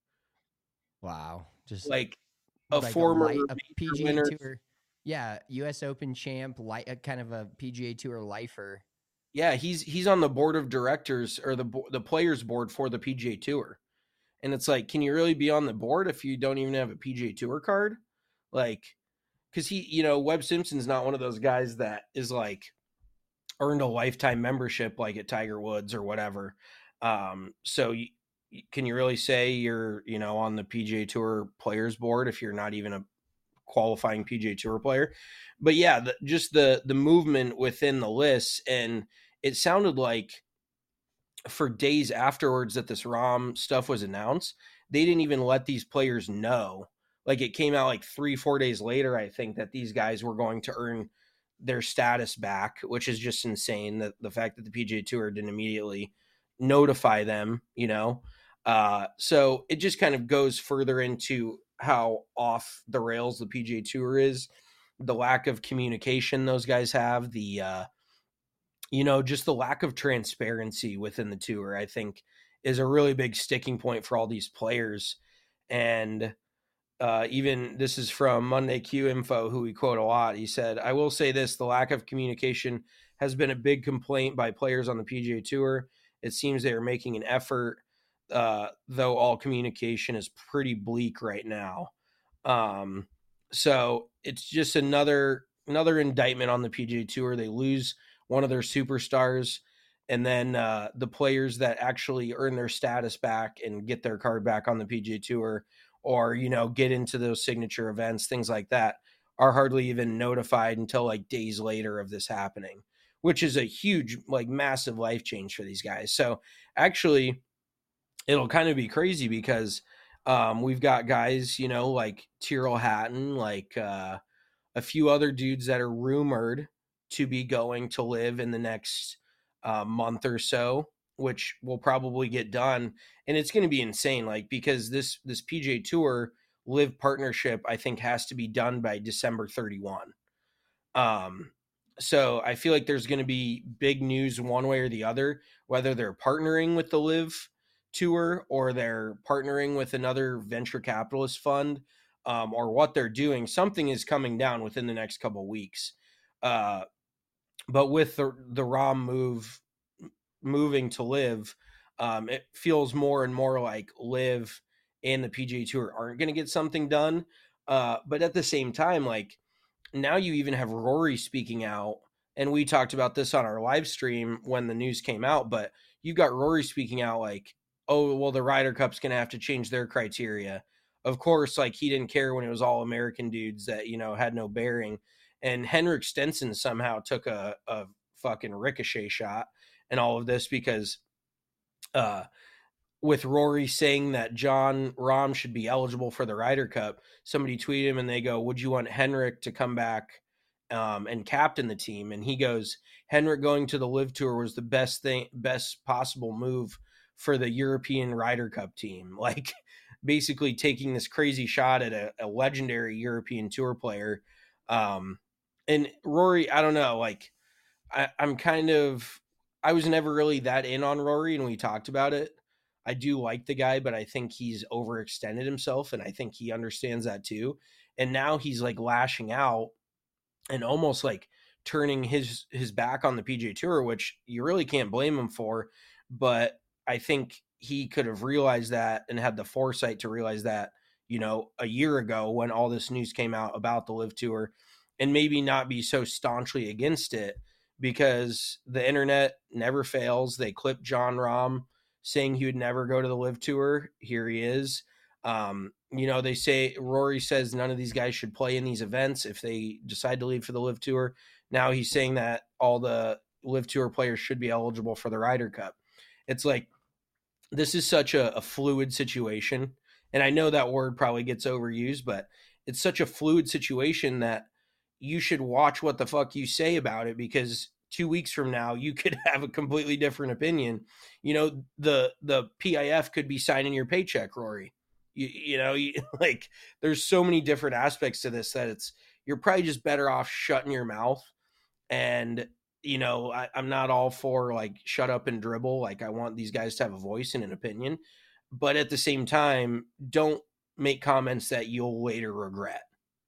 Wow. Just like a like former a, light, a P G A winner. Tour. Yeah, U S Open champ, light, a kind of a P G A Tour lifer. Yeah, he's he's on the board of directors or the the players board for the P G A Tour. And it's like, can you really be on the board if you don't even have a P G A Tour card? Like, because he, you know, Webb Simpson's not one of those guys that is like earned a lifetime membership like at Tiger Woods or whatever. Um, so you, can you really say you're, you know, on the P G A Tour players board if you're not even a qualifying P G A Tour player? But yeah, the, just the the movement within the lists, and it sounded like for days afterwards that this Rahm stuff was announced, they didn't even let these players know. Like it came out like three, four days later, I think, that these guys were going to earn their status back, which is just insane. That the fact that the P G A Tour didn't immediately notify them, you know? Uh, so it just kind of goes further into how off the rails the P G A Tour is, the lack of communication those guys have, the, uh, you know, just the lack of transparency within the tour, I think, is a really big sticking point for all these players. And uh, even this is from Monday Q Info, who we quote a lot. He said, "I will say this, the lack of communication has been a big complaint by players on the P G A Tour. It seems they are making an effort, uh, though all communication is pretty bleak right now." Um, so it's just another another indictment on the P G A Tour. They lose one of their superstars, and then uh, the players that actually earn their status back and get their card back on the P G A Tour, or, you know, get into those signature events, things like that, are hardly even notified until like days later of this happening, which is a huge, like massive life change for these guys. So actually it'll kind of be crazy because um, we've got guys, you know, like Tyrrell Hatton, like uh, a few other dudes that are rumored to be going to live in the next uh, month or so, which will probably get done. And it's going to be insane, like, because this, this P G A Tour live partnership, I think, has to be done by December thirty-first. Um, so I feel like there's going to be big news one way or the other, whether they're partnering with the live tour or they're partnering with another venture capitalist fund, um, or what they're doing. Something is coming down within the next couple of weeks. Uh, but with the, the Rahm move moving to live, um, it feels more and more like live and the P G A Tour aren't going to get something done. Uh, but at the same time, like, now you even have Rory speaking out, and we talked about this on our live stream when the news came out, but you've got Rory speaking out like, oh, well, the Ryder Cup's going to have to change their criteria. Of course, like, he didn't care when it was all American dudes that, you know, had no bearing. And Henrik Stenson somehow took a, a fucking ricochet shot and all of this because uh, with Rory saying that Jon Rahm should be eligible for the Ryder Cup, somebody tweeted him and they go, would you want Henrik to come back um, and captain the team? And he goes, Henrik going to the Live Tour was the best thing, best possible move for the European Ryder Cup team. Like, basically taking this crazy shot at a, a legendary European Tour player. Um, and Rory, I don't know, like, I, I'm kind of, I was never really that in on Rory, and we talked about it. I do like the guy, but I think he's overextended himself, and I think he understands that too. And now he's like lashing out and almost like turning his his back on the P G A Tour, which you really can't blame him for. But I think he could have realized that and had the foresight to realize that, you know, a year ago when all this news came out about the Live Tour, and maybe not be so staunchly against it, because the internet never fails. They clipped Jon Rahm saying he would never go to the Live Tour. Here he is. Um, you know, they say, Rory says none of these guys should play in these events if they decide to leave for the Live Tour. Now he's saying that all the Live Tour players should be eligible for the Ryder Cup. It's like, this is such a, a fluid situation. And I know that word probably gets overused, but it's such a fluid situation that, you should watch what the fuck you say about it, because two weeks from now you could have a completely different opinion. You know, the the P I F could be signing your paycheck, Rory. You, you know, you, like there's so many different aspects to this that it's you're probably just better off shutting your mouth. And you know, I, I'm not all for like shut up and dribble. Like I want these guys to have a voice and an opinion, but at the same time, don't make comments that you'll later regret.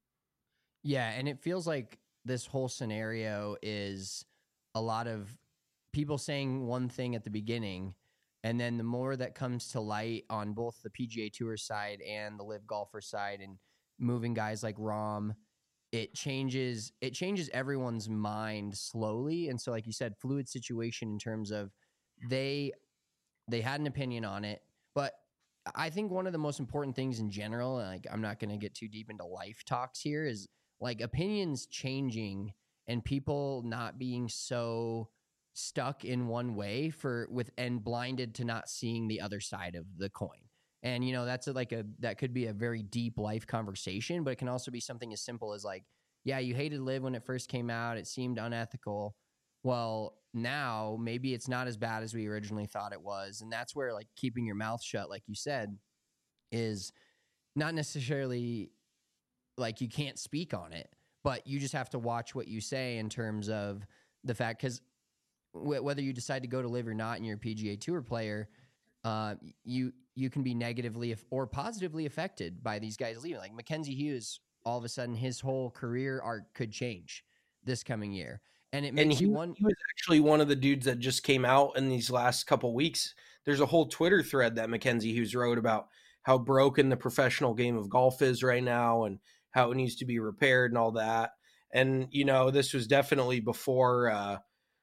Yeah, and it feels like this whole scenario is a lot of people saying one thing at the beginning, and then the more that comes to light on both the P G A Tour side and the Live Golfer side, and moving guys like Rahm, it changes it changes everyone's mind slowly. And so, like you said, fluid situation in terms of they they had an opinion on it, but I think one of the most important things in general, like I'm not going to get too deep into life talks here, is like opinions changing and people not being so stuck in one way for with and blinded to not seeing the other side of the coin. And, you know, that's a, like a, that could be a very deep life conversation, but it can also be something as simple as like, yeah, you hated Live when it first came out. It seemed unethical. Well, now maybe it's not as bad as we originally thought it was. And that's where like keeping your mouth shut, like you said, is not necessarily like you can't speak on it, but you just have to watch what you say in terms of the fact, because w- whether you decide to go to Live or not and you're a P G A Tour player, uh, you you can be negatively af- or positively affected by these guys leaving. Like Mackenzie Hughes, all of a sudden his whole career arc could change this coming year. And it makes and he, you one. he was actually one of the dudes that just came out in these last couple weeks. There's a whole Twitter thread that Mackenzie Hughes wrote about how broken the professional game of golf is right now and how it needs to be repaired and all that. And, you know, this was definitely before uh,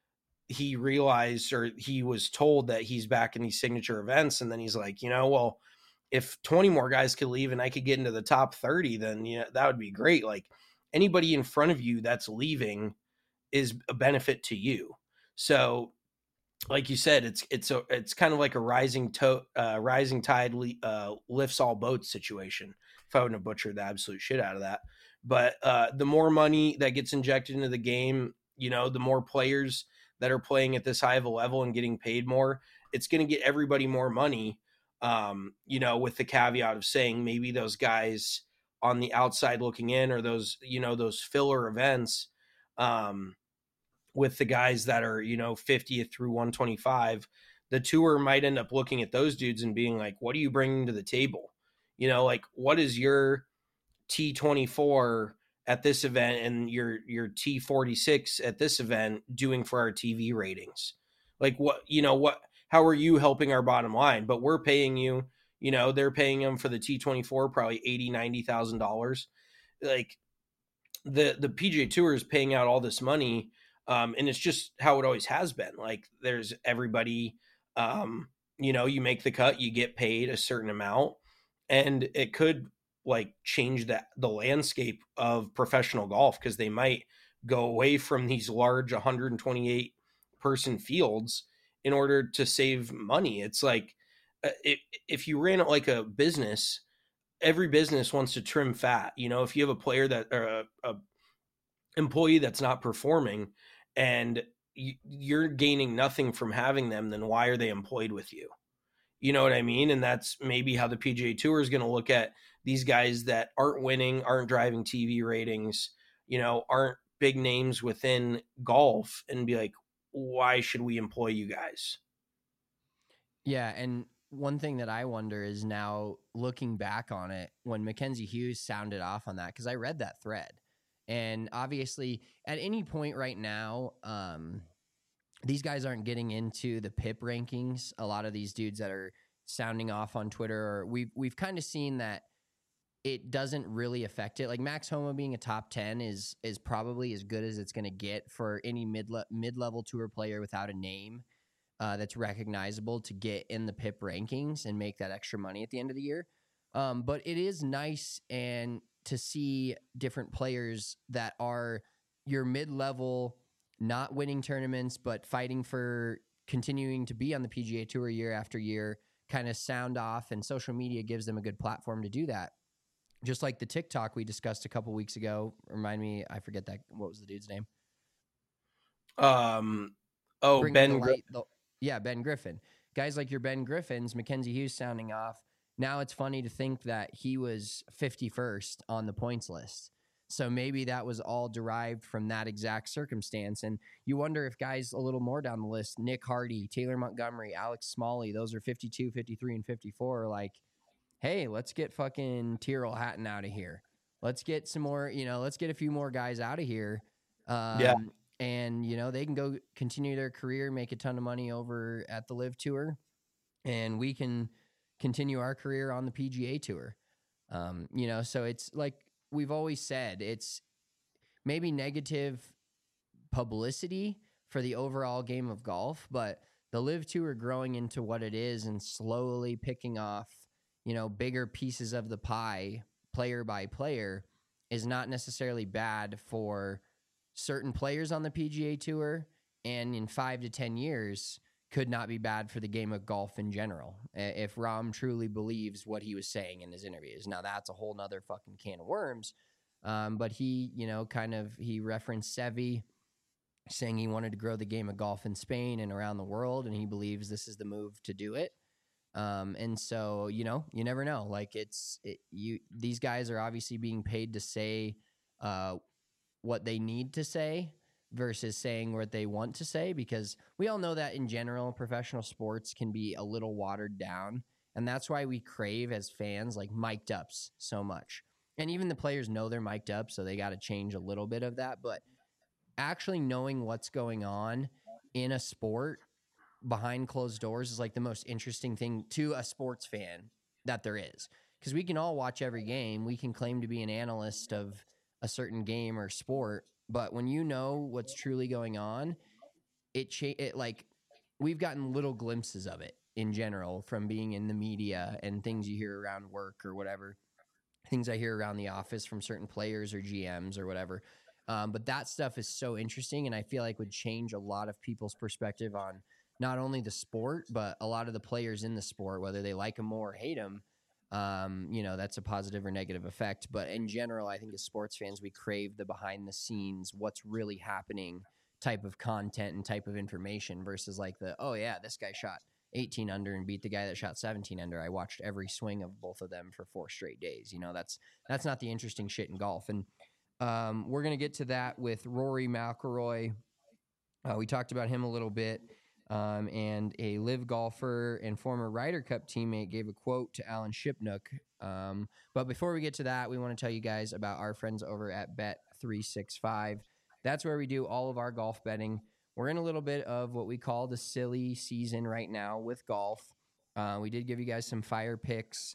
he realized, or he was told that he's back in these signature events. And then he's like, you know, well, if twenty more guys could leave and I could get into the top thirty, then, you know, that would be great. Like anybody in front of you that's leaving is a benefit to you. So like you said, it's, it's a, it's kind of like a rising to uh, rising tide uh, lifts all boats situation. If I wouldn't have butchered the absolute shit out of that, but uh, the more money that gets injected into the game, you know, the more players that are playing at this high of a level and getting paid more, it's going to get everybody more money. Um, you know, with the caveat of saying maybe those guys on the outside looking in, or those, you know, those filler events, um, with the guys that are, you know, fiftieth through one twenty-five, the tour might end up looking at those dudes and being like, what are you bringing to the table? You know, like what is your T twenty-four at this event and your, your T forty-six at this event doing for our T V ratings? Like what, you know, what, how are you helping our bottom line? But we're paying you, you know, they're paying them for the T twenty-four, probably eighty, ninety thousand dollars. Like the, the P G A Tour is paying out all this money. Um, and it's just how it always has been. Like there's everybody, um, you know, you make the cut, you get paid a certain amount, and it could like change that the landscape of professional golf, because they might go away from these large one hundred twenty-eight person fields in order to save money. It's like uh, if, if you ran it like a business, every business wants to trim fat. You know, if you have a player that or a, a employee that's not performing and you're gaining nothing from having them, then why are they employed with you? You know what I mean? And that's maybe how the P G A Tour is going to look at these guys that aren't winning, aren't driving T V ratings, you know, aren't big names within golf, and be like, why should we employ you guys? Yeah. And one thing that I wonder is now looking back on it, when Mackenzie Hughes sounded off on that, because I read that thread. And obviously, at any point right now, um, these guys aren't getting into the P I P rankings. A lot of these dudes that are sounding off on Twitter, or we've we've kind of seen that it doesn't really affect it. Like Max Homa being a top ten is is probably as good as it's going to get for any mid mid level tour player without a name uh, that's recognizable to get in the P I P rankings and make that extra money at the end of the year. Um, but it is nice and to see different players that are your mid-level, not winning tournaments, but fighting for continuing to be on the P G A Tour year after year, kind of sound off, and social media gives them a good platform to do that. Just like the TikTok we discussed a couple weeks ago. Remind me, I forget that. What was the dude's name? Um, oh, Bringing Ben. the Gri- light, the, yeah, Ben Griffin. Guys like your Ben Griffins, Mackenzie Hughes sounding off. Now it's funny to think that he was fifty-first on the points list. So maybe that was all derived from that exact circumstance. And you wonder if guys a little more down the list, Nick Hardy, Taylor Montgomery, Alex Smalley, those are fifty-two, fifty-three, and fifty-four, are like, hey, let's get fucking Tyrrell Hatton out of here. Let's get some more, you know, let's get a few more guys out of here. Um, Yeah. And, you know, they can go continue their career, make a ton of money over at the Live Tour, and we can continue our career on the P G A Tour. Um, you know, so it's like we've always said, it's maybe negative publicity for the overall game of golf, but the Live Tour growing into what it is and slowly picking off, you know, bigger pieces of the pie, player by player, is not necessarily bad for certain players on the P G A Tour, and in five to ten years could not be bad for the game of golf in general. If Rahm truly believes what he was saying in his interviews. Now that's a whole nother fucking can of worms. Um, but he, you know, kind of, he referenced Seve saying he wanted to grow the game of golf in Spain and around the world, and he believes this is the move to do it. Um, and so, you know, you never know. Like it's, it, you, these guys are obviously being paid to say, uh, what they need to say versus saying what they want to say, because we all know that in general, professional sports can be a little watered down. And that's why we crave as fans, like mic'd ups so much. And even the players know they're mic'd up, so they got to change a little bit of that. But actually knowing what's going on in a sport behind closed doors is like the most interesting thing to a sports fan that there is. Because we can all watch every game. We can claim to be an analyst of a certain game or sport, but when you know what's truly going on, it, cha- it like we've gotten little glimpses of it in general from being in the media and things you hear around work or whatever, things I hear around the office from certain players or G Ms or whatever. Um, but that stuff is so interesting, and I feel like would change a lot of people's perspective on not only the sport, but a lot of the players in the sport, whether they like them more or hate them. Um, you know, that's a positive or negative effect. But in general, I think as sports fans, we crave the behind the scenes, what's really happening type of content and type of information versus like the, oh yeah, this guy shot eighteen under and beat the guy that shot seventeen under. I watched every swing of both of them for four straight days. You know, that's, that's not the interesting shit in golf. And, um, we're going to get to that with Rory McIlroy. Uh, we talked about him a little bit. Um, and a live golfer and former Ryder Cup teammate gave a quote to Alan Shipnuck. Um, but before we get to that, we want to tell you guys about our friends over at Bet three sixty-five. That's where we do all of our golf betting. We're in a little bit of what we call the silly season right now with golf. Uh, we did give you guys some fire picks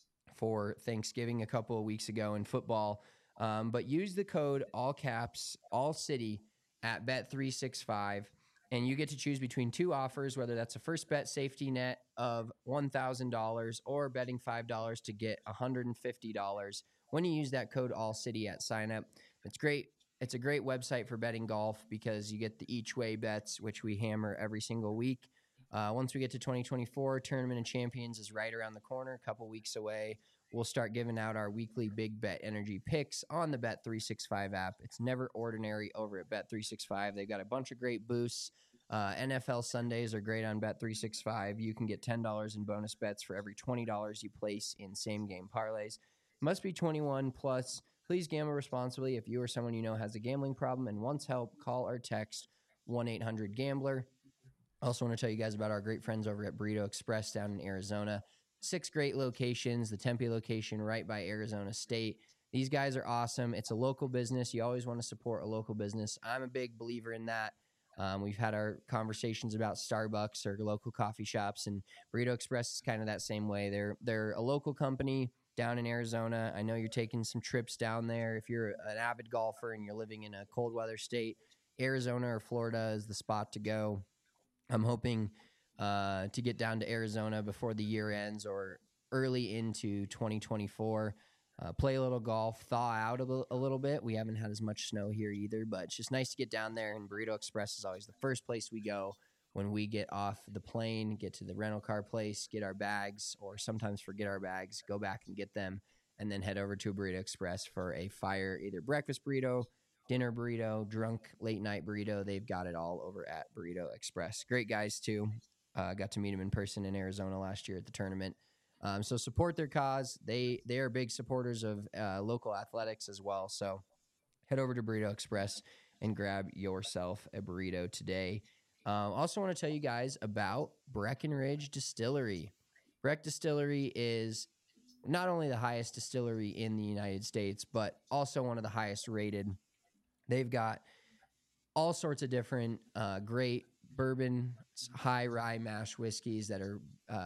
for Thanksgiving a couple of weeks ago in football. Um, but use the code all caps, all city at Bet three sixty-five. And you get to choose between two offers, whether that's a first bet safety net of one thousand dollars or betting five dollars to get one hundred fifty dollars when you use that code ALLCITY at sign up. It's great. It's a great website for betting golf because you get the each way bets, which we hammer every single week. Uh, once we get to twenty twenty-four, Tournament of Champions is right around the corner, a couple weeks away. We'll start giving out our weekly big bet energy picks on the Bet three sixty-five app. It's never ordinary over at Bet three sixty-five. They've got a bunch of great boosts. Uh, N F L Sundays are great on Bet three sixty-five. You can get ten dollars in bonus bets for every twenty dollars you place in same-game parlays. Must be twenty-one plus. Please gamble responsibly. If you or someone you know has a gambling problem and wants help, call or text one eight hundred gambler. Also want to tell you guys about our great friends over at Burrito Express down in Arizona. Six great locations. The Tempe location right by Arizona State. These guys are awesome. It's a local business. You always want to support a local business. I'm a big believer in that. Um, we've had our conversations about Starbucks or local coffee shops, and Burrito Express is kind of that same way. They're they're a local company down in Arizona. I know you're taking some trips down there. If you're an avid golfer and you're living in a cold weather state, Arizona or Florida is the spot to go. I'm hoping uh, to get down to Arizona before the year ends or early into twenty twenty-four. Uh, play a little golf, thaw out a, l- a little bit. We haven't had as much snow here either, but it's just nice to get down there, and Burrito Express is always the first place we go when we get off the plane, get to the rental car place, get our bags, or sometimes forget our bags, go back and get them, and then head over to Burrito Express for a fire, either breakfast burrito, dinner burrito, drunk late night burrito. They've got it all over at Burrito Express. Great guys too. Uh, got to meet them in person in Arizona last year at the tournament. Um, so support their cause. They they are big supporters of uh, local athletics as well. So head over to Burrito Express and grab yourself a burrito today. Um, also want to tell you guys about Breckenridge Distillery. Breck Distillery is not only the highest distillery in the United States, but also one of the highest rated. They've got all sorts of different uh, great bourbon, high rye mash whiskeys that are, uh,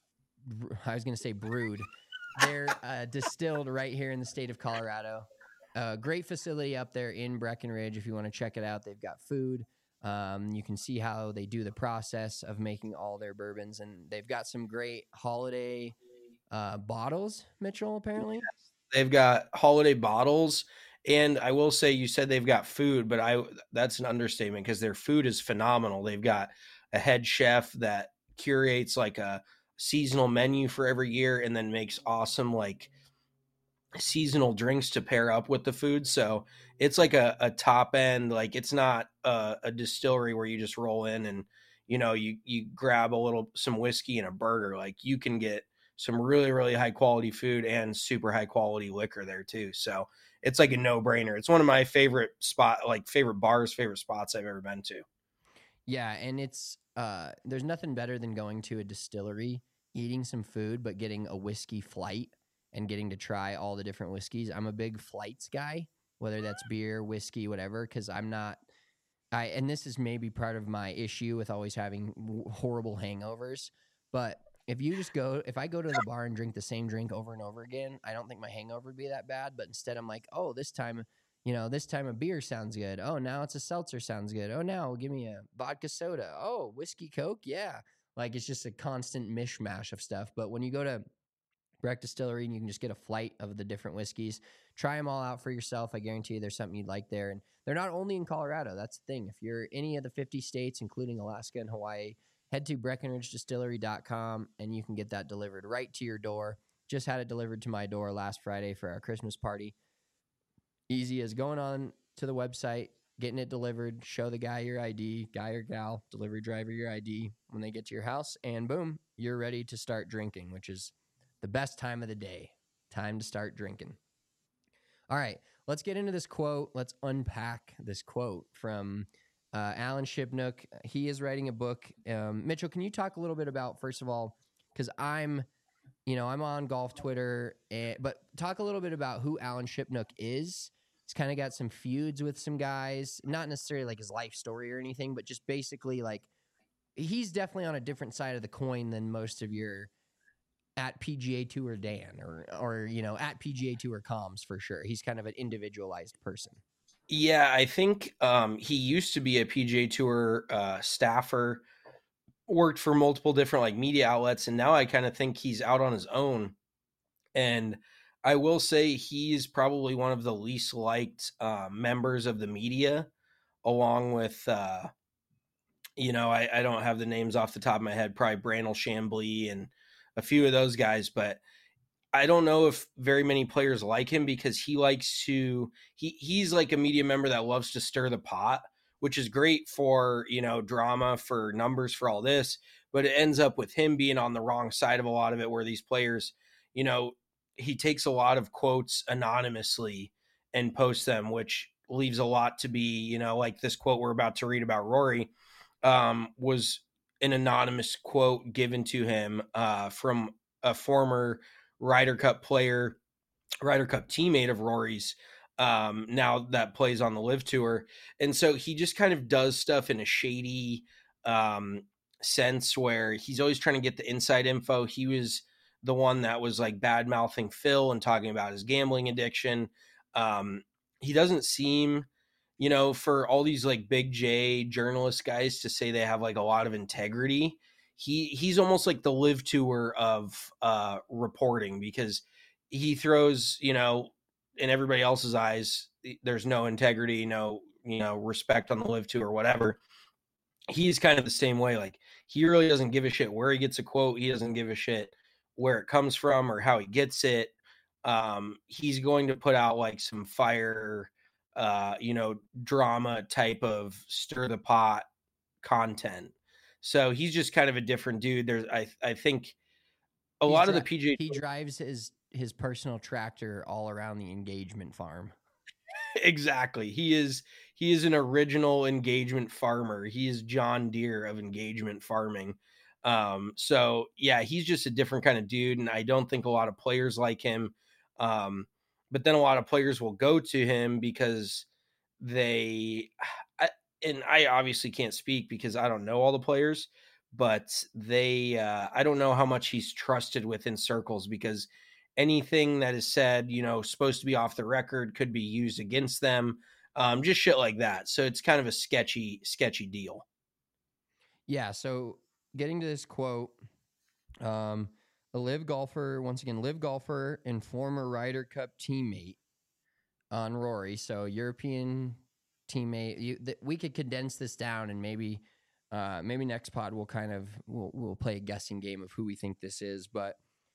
I was going to say brewed. They're uh, distilled right here in the state of Colorado. Uh, great facility up there in Breckenridge. If you want to check it out, they've got food. Um, you can see how they do the process of making all their bourbons, and they've got some great holiday uh, bottles, Mitchell, apparently. They've got holiday bottles, and I will say, you said they've got food, but I that's an understatement because their food is phenomenal. They've got a head chef that curates like a seasonal menu for every year and then makes awesome like seasonal drinks to pair up with the food. So it's like a, a top end, like it's not a, a distillery where you just roll in and, you know, you, you grab a little, some whiskey and a burger. Like you can get some really, really high quality food and super high quality liquor there too. So it's like a no brainer. It's one of my favorite spot, like favorite bars, favorite spots I've ever been to. Yeah. And it's, uh, there's nothing better than going to a distillery, eating some food, but getting a whiskey flight and getting to try all the different whiskeys. I'm a big flights guy, whether that's beer, whiskey, whatever, because I'm not, I, and this is maybe part of my issue with always having w- horrible hangovers. But if you just go, if I go to the bar and drink the same drink over and over again, I don't think my hangover would be that bad. But instead, I'm like, oh, this time, you know, this time a beer sounds good. Oh, now it's a seltzer sounds good. Oh, now give me a vodka soda. Oh, whiskey Coke. Yeah. Like it's just a constant mishmash of stuff. But when you go to Breck Distillery and you can just get a flight of the different whiskeys, try them all out for yourself. I guarantee you there's something you'd like there. And they're not only in Colorado. That's the thing. If you're any of the fifty states, including Alaska and Hawaii, head to breckenridge distillery dot com and you can get that delivered right to your door. Just had it delivered to my door last Friday for our Christmas party. Easy as going on to the website, getting it delivered, show the guy your I D, guy or gal, delivery driver your I D when they get to your house, and boom, you're ready to start drinking, which is the best time of the day. Time to start drinking. All right, let's get into this quote. Let's unpack this quote from uh, Alan Shipnuck. He is writing a book. Um, Mitchell, can you talk a little bit about, first of all, because I'm, you know, I'm on golf Twitter, and, but talk a little bit about who Alan Shipnuck is. He's kind of got some feuds with some guys, not necessarily like his life story or anything, but just basically like he's definitely on a different side of the coin than most of your at P G A Tour Dan or, or, you know, at P G A Tour comms for sure. He's kind of an individualized person. Yeah, I think um, he used to be a P G A Tour uh, staffer, worked for multiple different like media outlets, and now I kind of think he's out on his own. And I will say he's probably one of the least liked uh, members of the media, along with, uh, you know, I, I don't have the names off the top of my head, probably Brandel Chambly and a few of those guys, but I don't know if very many players like him because he likes to, he he's like a media member that loves to stir the pot, which is great for, you know, drama, for numbers, for all this, but it ends up with him being on the wrong side of a lot of it, where these players, you know, he takes a lot of quotes anonymously and posts them, which leaves a lot to be, you know, like this quote we're about to read about Rory um, was an anonymous quote given to him uh, from a former Ryder Cup player, Ryder Cup teammate of Rory's, um, now that plays on the Live Tour. And so he just kind of does stuff in a shady um, sense where he's always trying to get the inside info. He was the one that was like bad mouthing Phil and talking about his gambling addiction. Um, he doesn't seem, you know, for all these like big J journalist guys to say they have like a lot of integrity. He he's almost like the Live Tour of uh, reporting, because he throws, you know, in everybody else's eyes, there's no integrity, no, you know, respect on the Live Tour or whatever. He's kind of the same way. Like he really doesn't give a shit where he gets a quote. He doesn't give a shit where it comes from or how he gets it. um, he's going to put out like some fire, uh, you know, drama type of stir the pot content. So he's just kind of a different dude. There's, I, I think a He's lot dri- of the P G A he drives his his personal tractor all around the engagement farm. Exactly. He is he is an original engagement farmer. He is John Deere of engagement farming. Um, so yeah, he's just a different kind of dude, and I don't think a lot of players like him. Um, but then a lot of players will go to him because they I, and I obviously can't speak because I don't know all the players, but they uh, I don't know how much he's trusted within circles because anything that is said, you know, supposed to be off the record could be used against them. Um, just shit like that. So it's kind of a sketchy, sketchy deal. Yeah. So getting to this quote, um, a live golfer, once again, live golfer and former Ryder Cup teammate on Rory. So European teammate. You, th- we could condense this down and maybe, uh, maybe next pod we'll kind of we'll we'll play a guessing game of who we think this is. But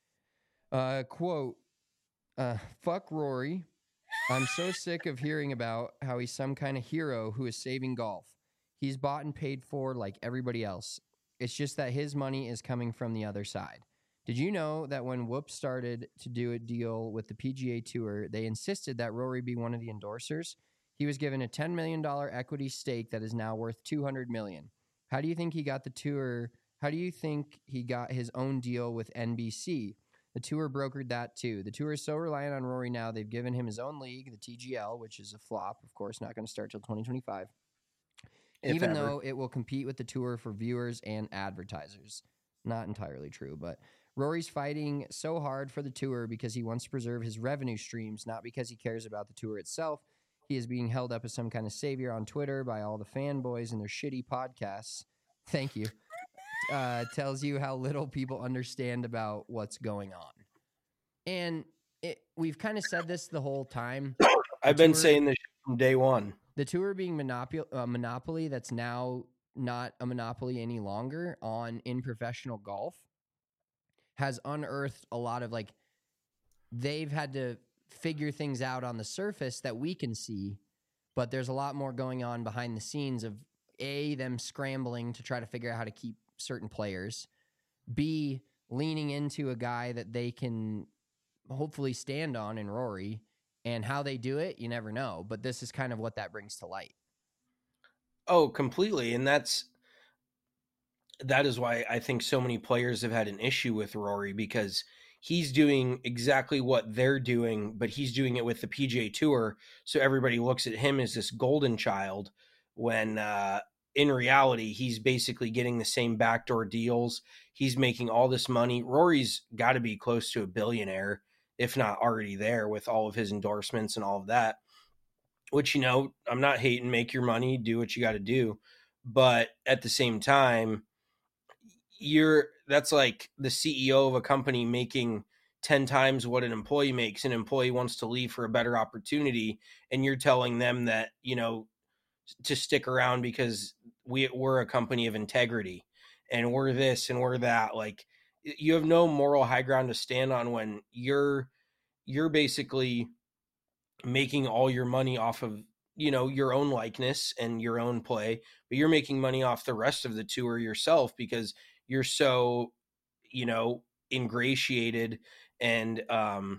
uh, quote, uh, "Fuck Rory. I'm so sick of hearing about how he's some kind of hero who is saving golf. He's bought and paid for like everybody else. It's just that his money is coming from the other side. Did you know that when Whoop started to do a deal with the P G A Tour, they insisted that Rory be one of the endorsers? He was given a ten million dollars equity stake that is now worth two hundred million dollars. How do you think he got the tour? How do you think he got his own deal with N B C? The tour brokered that too. The tour is so reliant on Rory now, they've given him his own league, the T G L, which is a flop, of course, not going to start till twenty twenty-five. If Even ever. though it will compete with the tour for viewers and advertisers. Not entirely true, but Rory's fighting so hard for the tour because he wants to preserve his revenue streams, not because he cares about the tour itself. He is being held up as some kind of savior on Twitter by all the fanboys and their shitty podcasts. Thank you. Uh, tells you how little people understand about what's going on. And it, we've kind of said this the whole time. I've The been tour- saying this from day one. The tour being monopoly, uh, monopoly that's now not a monopoly any longer on in professional golf has unearthed a lot of like they've had to figure things out on the surface that we can see, but there's a lot more going on behind the scenes of A, them scrambling to try to figure out how to keep certain players, B, leaning into a guy that they can hopefully stand on in Rory. And how they do it, you never know. But this is kind of what that brings to light. Oh, completely. And that's that is why I think so many players have had an issue with Rory, because he's doing exactly what they're doing, but he's doing it with the P G A Tour. So everybody looks at him as this golden child when uh, in reality, he's basically getting the same backdoor deals. He's making all this money. Rory's got to be close to a billionaire, if not already there, with all of his endorsements and all of that, which, you know, I'm not hating, make your money, do what you got to do. But at the same time, you're, that's like the C E O of a company making ten times what an employee makes. An employee wants to leave for a better opportunity, and you're telling them that, you know, to stick around because we, we're a company of integrity and we're this and we're that. Like, you have no moral high ground to stand on when you're you're basically making all your money off of, you know, your own likeness and your own play, but you're making money off the rest of the tour yourself because you're so, you know, ingratiated and um,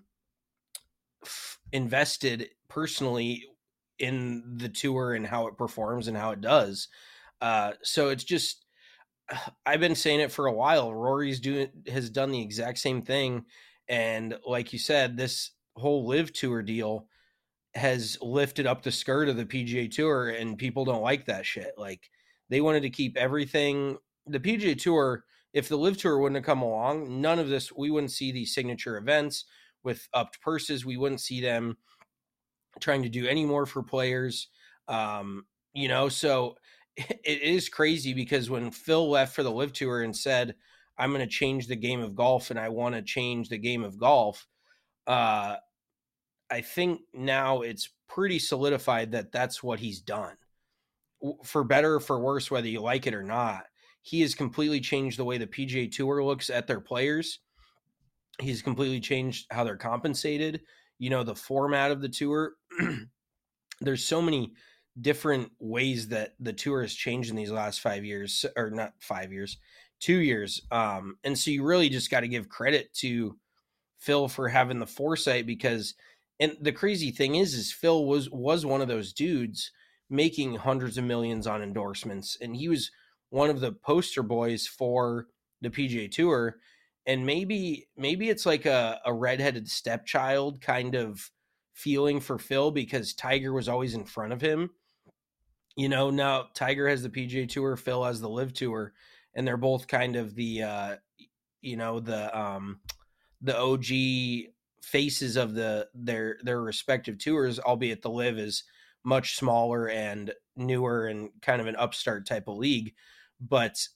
f- invested personally in the tour and how it performs and how it does. Uh, so it's just, I've been saying it for a while. Rory's doing has done the exact same thing, and like you said, this whole live tour deal has lifted up the skirt of the P G A Tour, and people don't like that shit. Like, they wanted to keep everything. The P G A Tour, if the live tour wouldn't have come along, none of this, we wouldn't see these signature events with upped purses. We wouldn't see them trying to do any more for players. Um, you know, so it is crazy because when Phil left for the live tour and said, I'm going to change the game of golf and I want to change the game of golf, uh, I think now it's pretty solidified that that's what he's done. For better or for worse, whether you like it or not, he has completely changed the way the P G A Tour looks at their players. He's completely changed how they're compensated. You know, the format of the tour. There's so many different ways that the tour has changed in these last five years, or not five years, two years. Um, and so you really just got to give credit to Phil for having the foresight, because, and the crazy thing is, is Phil was, was one of those dudes making hundreds of millions on endorsements. And he was one of the poster boys for the P G A Tour. And maybe, maybe it's like a, a redheaded stepchild kind of feeling for Phil, because Tiger was always in front of him. You know, now Tiger has the P G A Tour, Phil has the Live Tour, and they're both kind of the, uh, you know, the, um, the O G faces of the, their, their respective tours, albeit the Live is much smaller and newer and kind of an upstart type of league. But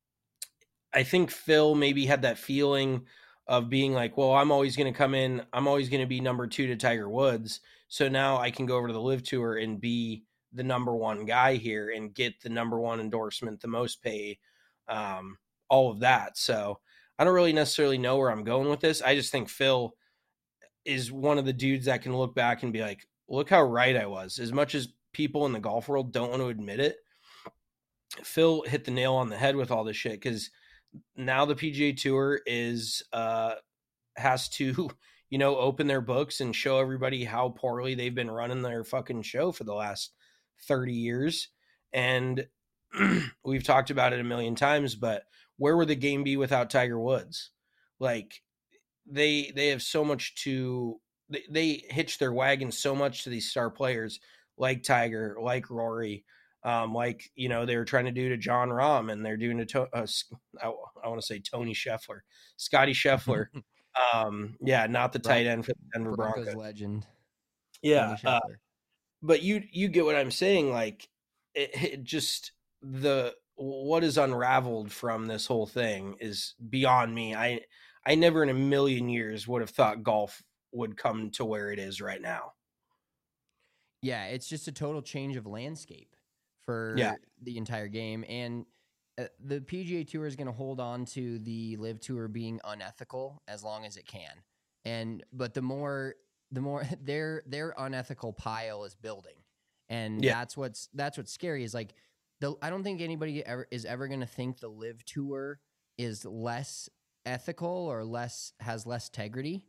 I think Phil maybe had that feeling of being like, well, I'm always going to come in. I'm always going to be number two to Tiger Woods. So now I can go over to the Live Tour and be the number one guy here and get the number one endorsement, the most pay, um, all of that. So I don't really necessarily know where I'm going with this. I just think Phil is one of the dudes that can look back and be like, look how right I was. As much as people in the golf world don't want to admit it, Phil hit the nail on the head with all this shit, because now the P G A Tour is uh, has to, you know, open their books and show everybody how poorly they've been running their fucking show for the last thirty years. And we've talked about it a million times, but where would the game be without Tiger Woods? Like, they they have so much to, they, they hitch their wagon so much to these star players like Tiger, like Rory, um, like, you know, they were trying to do to Jon Rahm, and they're doing to, uh, I, I want to say Tony Scheffler, Scotty Scheffler. um, yeah, not the tight end for the Denver Broncos, Broncos. legend. Yeah. Uh, but you, you get what I'm saying. Like, it, it just, the, what is unraveled from this whole thing is beyond me. I, I never in a million years would have thought golf would come to where it is right now. Yeah, it's just a total change of landscape for yeah. the entire game. And uh, the P G A Tour is going to hold on to the Live Tour being unethical as long as it can. And but the more the more their their unethical pile is building. And yeah. that's what's that's what's scary is like the I don't think anybody ever is ever going to think the Live Tour is less ethical or less has less integrity.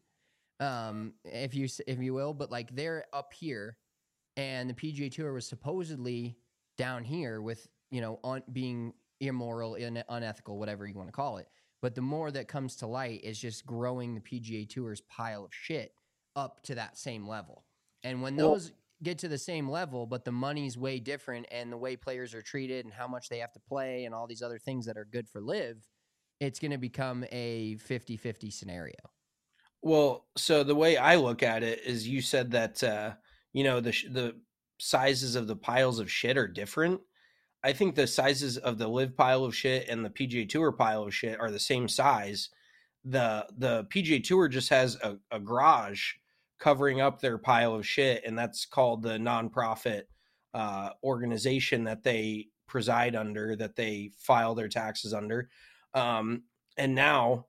Um if you if you will, but like they're up here and the P G A Tour was supposedly down here with, you know, on being immoral, in, unethical, whatever you want to call it. But the more that comes to light is just growing the P G A Tour's pile of shit up to that same level. And when those well, get to the same level, but the money's way different and the way players are treated and how much they have to play and all these other things that are good for Live, it's going to become a fifty-fifty scenario. Well, so the way I look at it is you said that, uh, you know, the the sizes of the piles of shit are different. I think the sizes of the Live pile of shit and the P G A Tour pile of shit are the same size. The the P G A Tour just has a, a garage covering up their pile of shit, and that's called the nonprofit uh, organization that they preside under, that they file their taxes under. Um, and now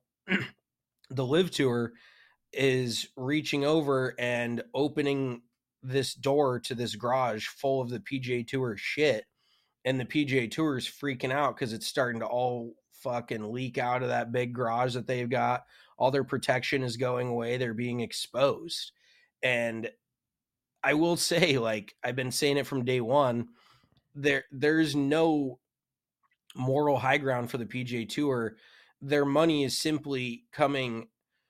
the Live Tour is reaching over and opening this door to this garage full of the P G A Tour shit. And the P G A Tour is freaking out because it's starting to all fucking leak out of that big garage that they've got. All their protection is going away. They're being exposed. And I will say, like, I've been saying it from day one, there there's no moral high ground for the P G A Tour. Their money is simply coming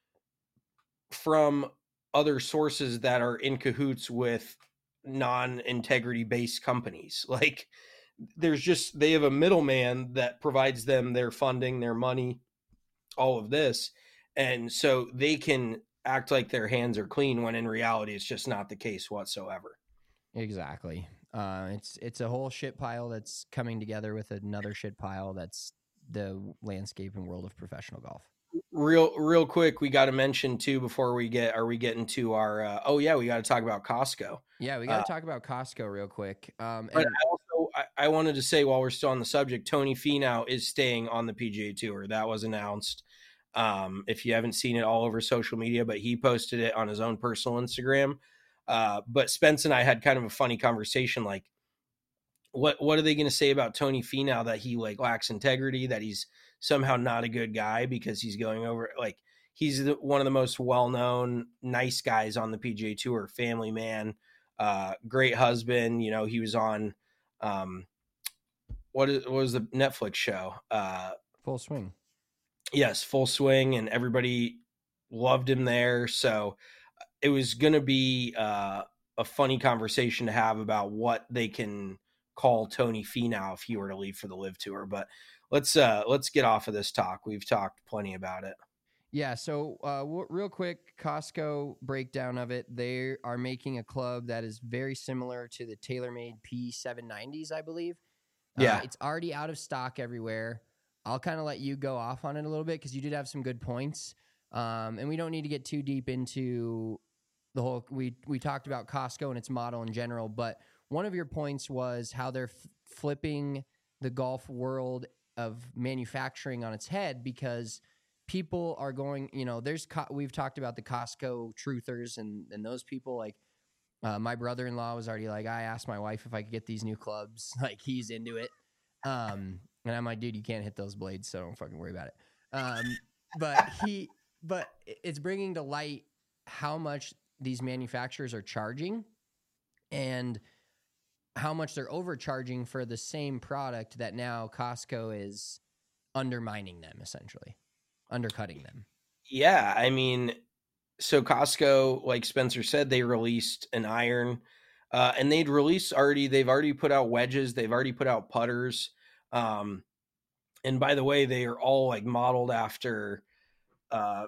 from other sources that are in cahoots with non-integrity based companies. Like, there's just, they have a middleman that provides them their funding, their money, all of this. And so they can act like their hands are clean when in reality, it's just not the case whatsoever. Exactly. Uh, it's, it's a whole shit pile that's coming together with another shit pile. That's the landscape and world of professional golf. Real, real quick, we got to mention too, before we get, are we getting to our, uh, oh yeah, we got to talk about Costco. Yeah, we got to uh, talk about Costco real quick. Um, but and- I also, I, I wanted to say while we're still on the subject, Tony Finau is staying on the P G A Tour. That was announced. Um, if you haven't seen it all over social media, but he posted it on his own personal Instagram. Uh, but Spence and I had kind of a funny conversation. Like, what, what are they going to say about Tony Finau, that he like lacks integrity, that he's somehow not a good guy because he's going over, like, he's the, one of the most well-known nice guys on the P G A Tour, family man, uh, great husband. You know, he was on, um, what, is, what was the Netflix show? Uh, Full Swing. Yes, Full Swing, and everybody loved him there. So it was going to be uh, a funny conversation to have about what they can call Tony Finau if he were to leave for the Live Tour. But let's uh, let's get off of this talk. We've talked plenty about it. Yeah, so uh, w- real quick, Costco breakdown of it. They are making a club that is very similar to the TaylorMade P seven nineties, I believe. Yeah. Uh, it's already out of stock everywhere. I'll kind of let you go off on it a little bit because you did have some good points. Um, and we don't need to get too deep into the whole, we, we talked about Costco and its model in general, but one of your points was how they're f- flipping the golf world of manufacturing on its head, because people are going, you know, there's, co- we've talked about the Costco truthers and, and those people. Like uh, my brother-in-law was already like, I asked my wife if I could get these new clubs. Like, he's into it. Um, and I'm like, dude, you can't hit those blades, so don't fucking worry about it. Um, but he, but it's bringing to light how much these manufacturers are charging and how much they're overcharging for the same product that now Costco is undermining them, essentially undercutting them. Yeah, I mean, so Costco, like Spencer said, they released an iron, uh, and they'd released already. They've already put out wedges. They've already put out putters. Um, and by the way, they are all like modeled after uh,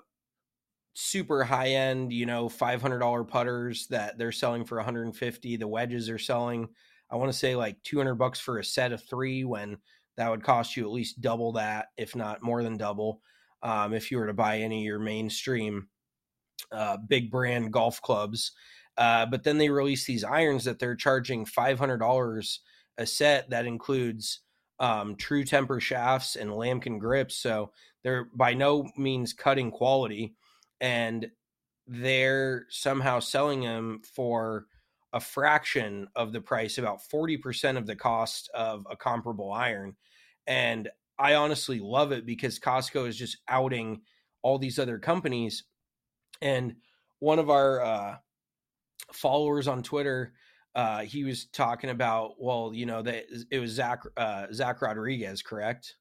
super high end, you know, five hundred dollars putters that they're selling for one hundred fifty. The wedges are selling, I want to say, like two hundred bucks for a set of three, when that would cost you at least double that, if not more than double, um, if you were to buy any of your mainstream uh, big brand golf clubs. Uh, but then they release these irons that they're charging five hundred dollars a set. That includes um, true temper shafts and lambkin grips. So they're by no means cutting quality, and they're somehow selling them for a fraction of the price, about forty percent of the cost of a comparable iron. And I honestly love it because Costco is just outing all these other companies. And one of our uh, followers on Twitter, uh, he was talking about, well, you know, that it was Zach, uh, Zach Rodriguez, correct?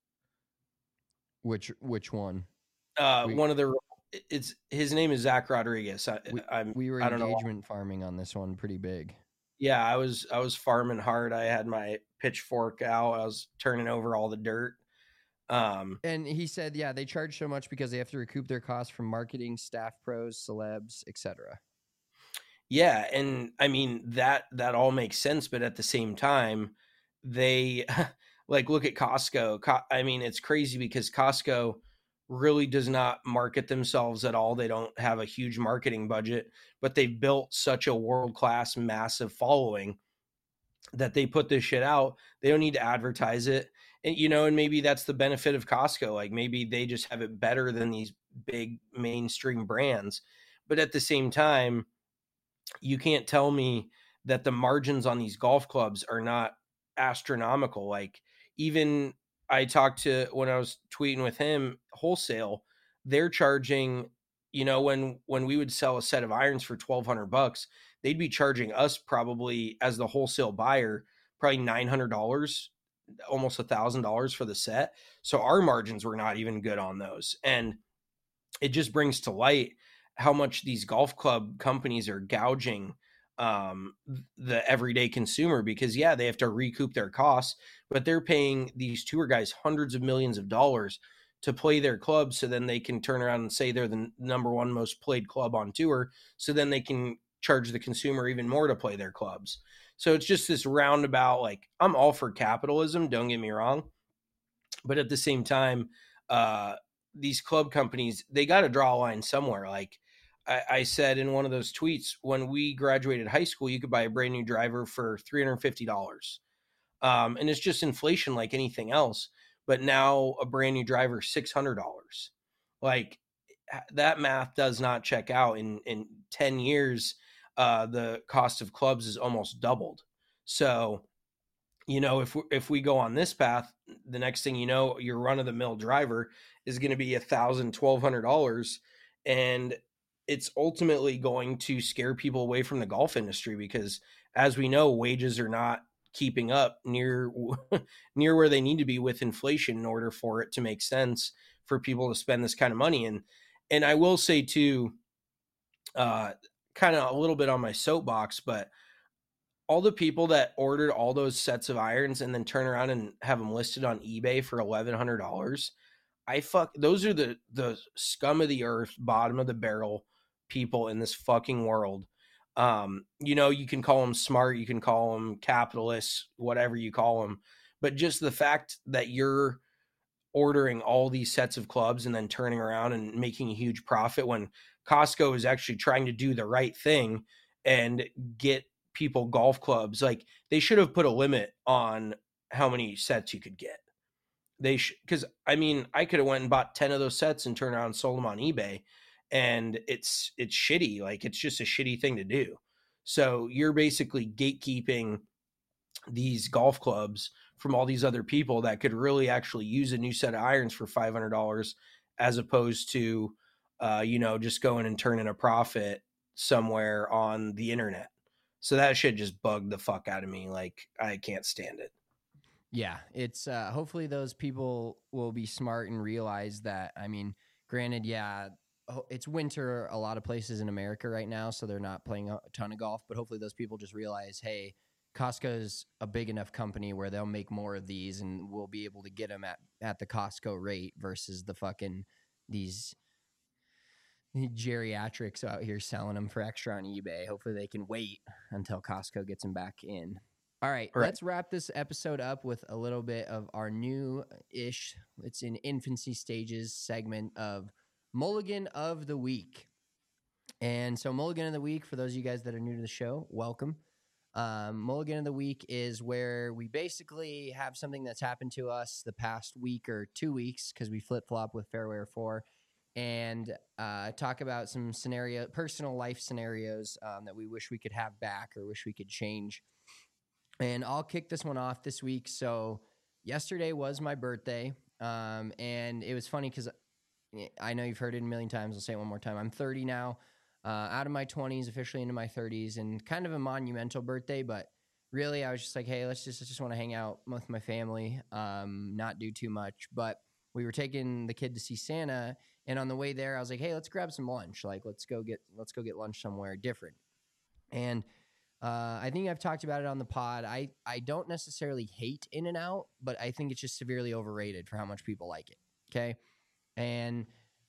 Which, which one? Uh, we, one of the, it's his name is Zach Rodriguez. I, we, I'm, we were I don't engagement know. farming on this one pretty big. Yeah, I was, I was farming hard. I had my pitchfork out. I was turning over all the dirt. Um, and he said, yeah, they charge so much because they have to recoup their costs from marketing, staff pros, celebs, et cetera. Yeah. And I mean, that, that all makes sense. But at the same time, they like, look at Costco. Co- I mean, it's crazy because Costco really does not market themselves at all. They don't have a huge marketing budget, but they've built such a world-class, massive following that they put this shit out. They don't need to advertise it. And, you know, and maybe that's the benefit of Costco. Like maybe they just have it better than these big mainstream brands. But at the same time, you can't tell me that the margins on these golf clubs are not astronomical. Like even I talked to, when I was tweeting with him, wholesale, they're charging, you know, when, when we would sell a set of irons for twelve hundred bucks, they'd be charging us probably as the wholesale buyer, probably nine hundred dollars, almost a thousand dollars for the set. So our margins were not even good on those. And it just brings to light how much these golf club companies are gouging um, the everyday consumer, because yeah, they have to recoup their costs, but they're paying these tour guys hundreds of millions of dollars to play their club. So then they can turn around and say they're the number one most played club on tour. So then they can charge the consumer even more to play their clubs. So it's just this roundabout, like I'm all for capitalism, don't get me wrong. But at the same time, uh, these club companies, they got to draw a line somewhere. Like I, I said in one of those tweets, when we graduated high school, you could buy a brand new driver for three hundred fifty dollars. Um, and it's just inflation like anything else. But now a brand new driver, six hundred dollars. Like that math does not check out. In in ten years, uh, the cost of clubs is almost doubled. So, you know, if we, if we go on this path, the next thing you know, your run of the mill driver is going to be a thousand, twelve hundred dollars, and it's ultimately going to scare people away from the golf industry because, as we know, wages are not keeping up near near where they need to be with inflation in order for it to make sense for people to spend this kind of money. And and I will say too, uh, kind of a little bit on my soapbox, but all the people that ordered all those sets of irons and then turn around and have them listed on eBay for eleven hundred dollars, I fuck, those are the, the scum of the earth, bottom of the barrel people in this fucking world. Um, you know, you can call them smart, you can call them capitalists, whatever you call them, but just the fact that you're ordering all these sets of clubs and then turning around and making a huge profit when Costco is actually trying to do the right thing and get people golf clubs. Like, they should have put a limit on how many sets you could get. They should, because I mean, I could have went and bought ten of those sets and turned around and sold them on eBay, and it's it's shitty. Like, it's just a shitty thing to do. So you're basically gatekeeping these golf clubs from all these other people that could really actually use a new set of irons for five hundred dollars, as opposed to, uh, you know, just going and turning a profit somewhere on the internet. So that shit just bugged the fuck out of me. Like, I can't stand it. Yeah, it's uh, hopefully those people will be smart and realize that. I mean, granted, yeah, it's winter a lot of places in America right now, so they're not playing a ton of golf, but hopefully those people just realize, hey, Costco's a big enough company where they'll make more of these and we'll be able to get them at, at the Costco rate versus the fucking these geriatrics out here selling them for extra on eBay. Hopefully they can wait until Costco gets them back in. All right, All right, let's wrap this episode up with a little bit of our new-ish, it's in infancy stages segment of Mulligan of the Week. And so Mulligan of the Week, for those of you guys that are new to the show, welcome. Um, Mulligan of the Week is where we basically have something that's happened to us the past week or two weeks because we flip-flop with Fairware four, and uh, talk about some scenario, personal life scenarios um, that we wish we could have back or wish we could change. And I'll kick this one off this week. So yesterday was my birthday, um, and it was funny because I know you've heard it a million times. I'll say it one more time. I'm thirty now, uh, out of my twenties, officially into my thirties, and kind of a monumental birthday. But really, I was just like, hey, let's just let's just want to hang out with my family, um, not do too much. But we were taking the kid to see Santa, and on the way there, I was like, hey, let's grab some lunch. Like, let's go get let's go get lunch somewhere different. And Uh, I think I've talked about it on the pod. I, I don't necessarily hate In-N-Out, but I think it's just severely overrated for how much people like it. Okay. And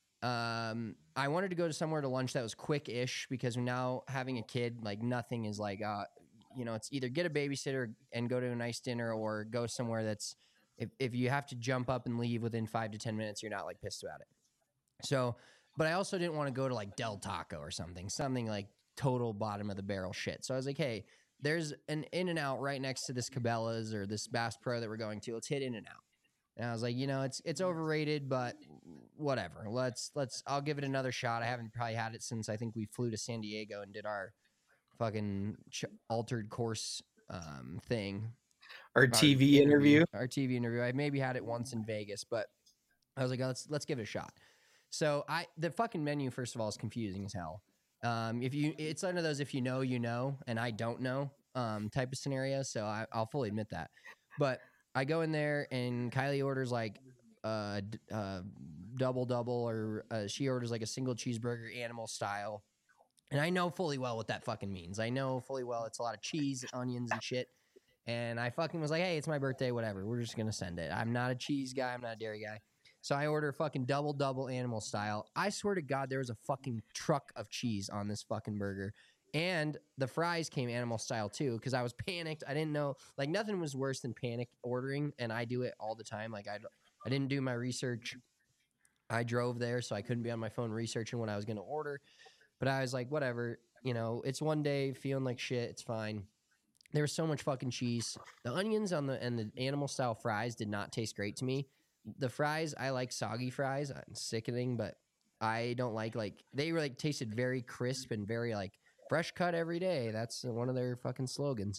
um, I wanted to go to somewhere to lunch that was quick-ish because now having a kid, like nothing is like, uh, you know, it's either get a babysitter and go to a nice dinner or go somewhere that's, if, if you have to jump up and leave within five to ten minutes, you're not like pissed about it. So, but I also didn't want to go to like Del Taco or something, something like total bottom of the barrel shit. So I was like, hey, there's an In-N-Out right next to this Cabela's or this Bass Pro that we're going to. Let's hit In-N-Out. And I was like, you know, it's it's overrated, but whatever. Let's let's I'll give it another shot. I haven't probably had it since I think we flew to San Diego and did our fucking ch- altered course um, thing. Our T V interview. interview. Our T V interview. I maybe had it once in Vegas, but I was like, oh, let's let's give it a shot. So I the fucking menu, first of all, is confusing as hell. Um, if you, it's one of those if you know, you know, and I don't know um, type of scenario. So I, I'll fully admit that. But I go in there and Kylie orders like a uh, uh, double double, or uh, she orders like a single cheeseburger, animal style. And I know fully well what that fucking means. I know fully well it's a lot of cheese, onions, and shit. And I fucking was like, hey, it's my birthday, whatever. We're just gonna send it. I'm not a cheese guy. I'm not a dairy guy. So I order fucking double double animal style. I swear to God, there was a fucking truck of cheese on this fucking burger. And the fries came animal style too, because I was panicked. I didn't know, like nothing was worse than panic ordering, and I do it all the time. Like I, I didn't do my research. I drove there, so I couldn't be on my phone researching what I was going to order. But I was like, whatever, you know, it's one day feeling like shit. It's fine. There was so much fucking cheese. The onions on the and the animal style fries did not taste great to me. The fries, I like soggy fries. It's sickening, but I don't like like they were like tasted very crisp and very like fresh cut every day. That's one of their fucking slogans.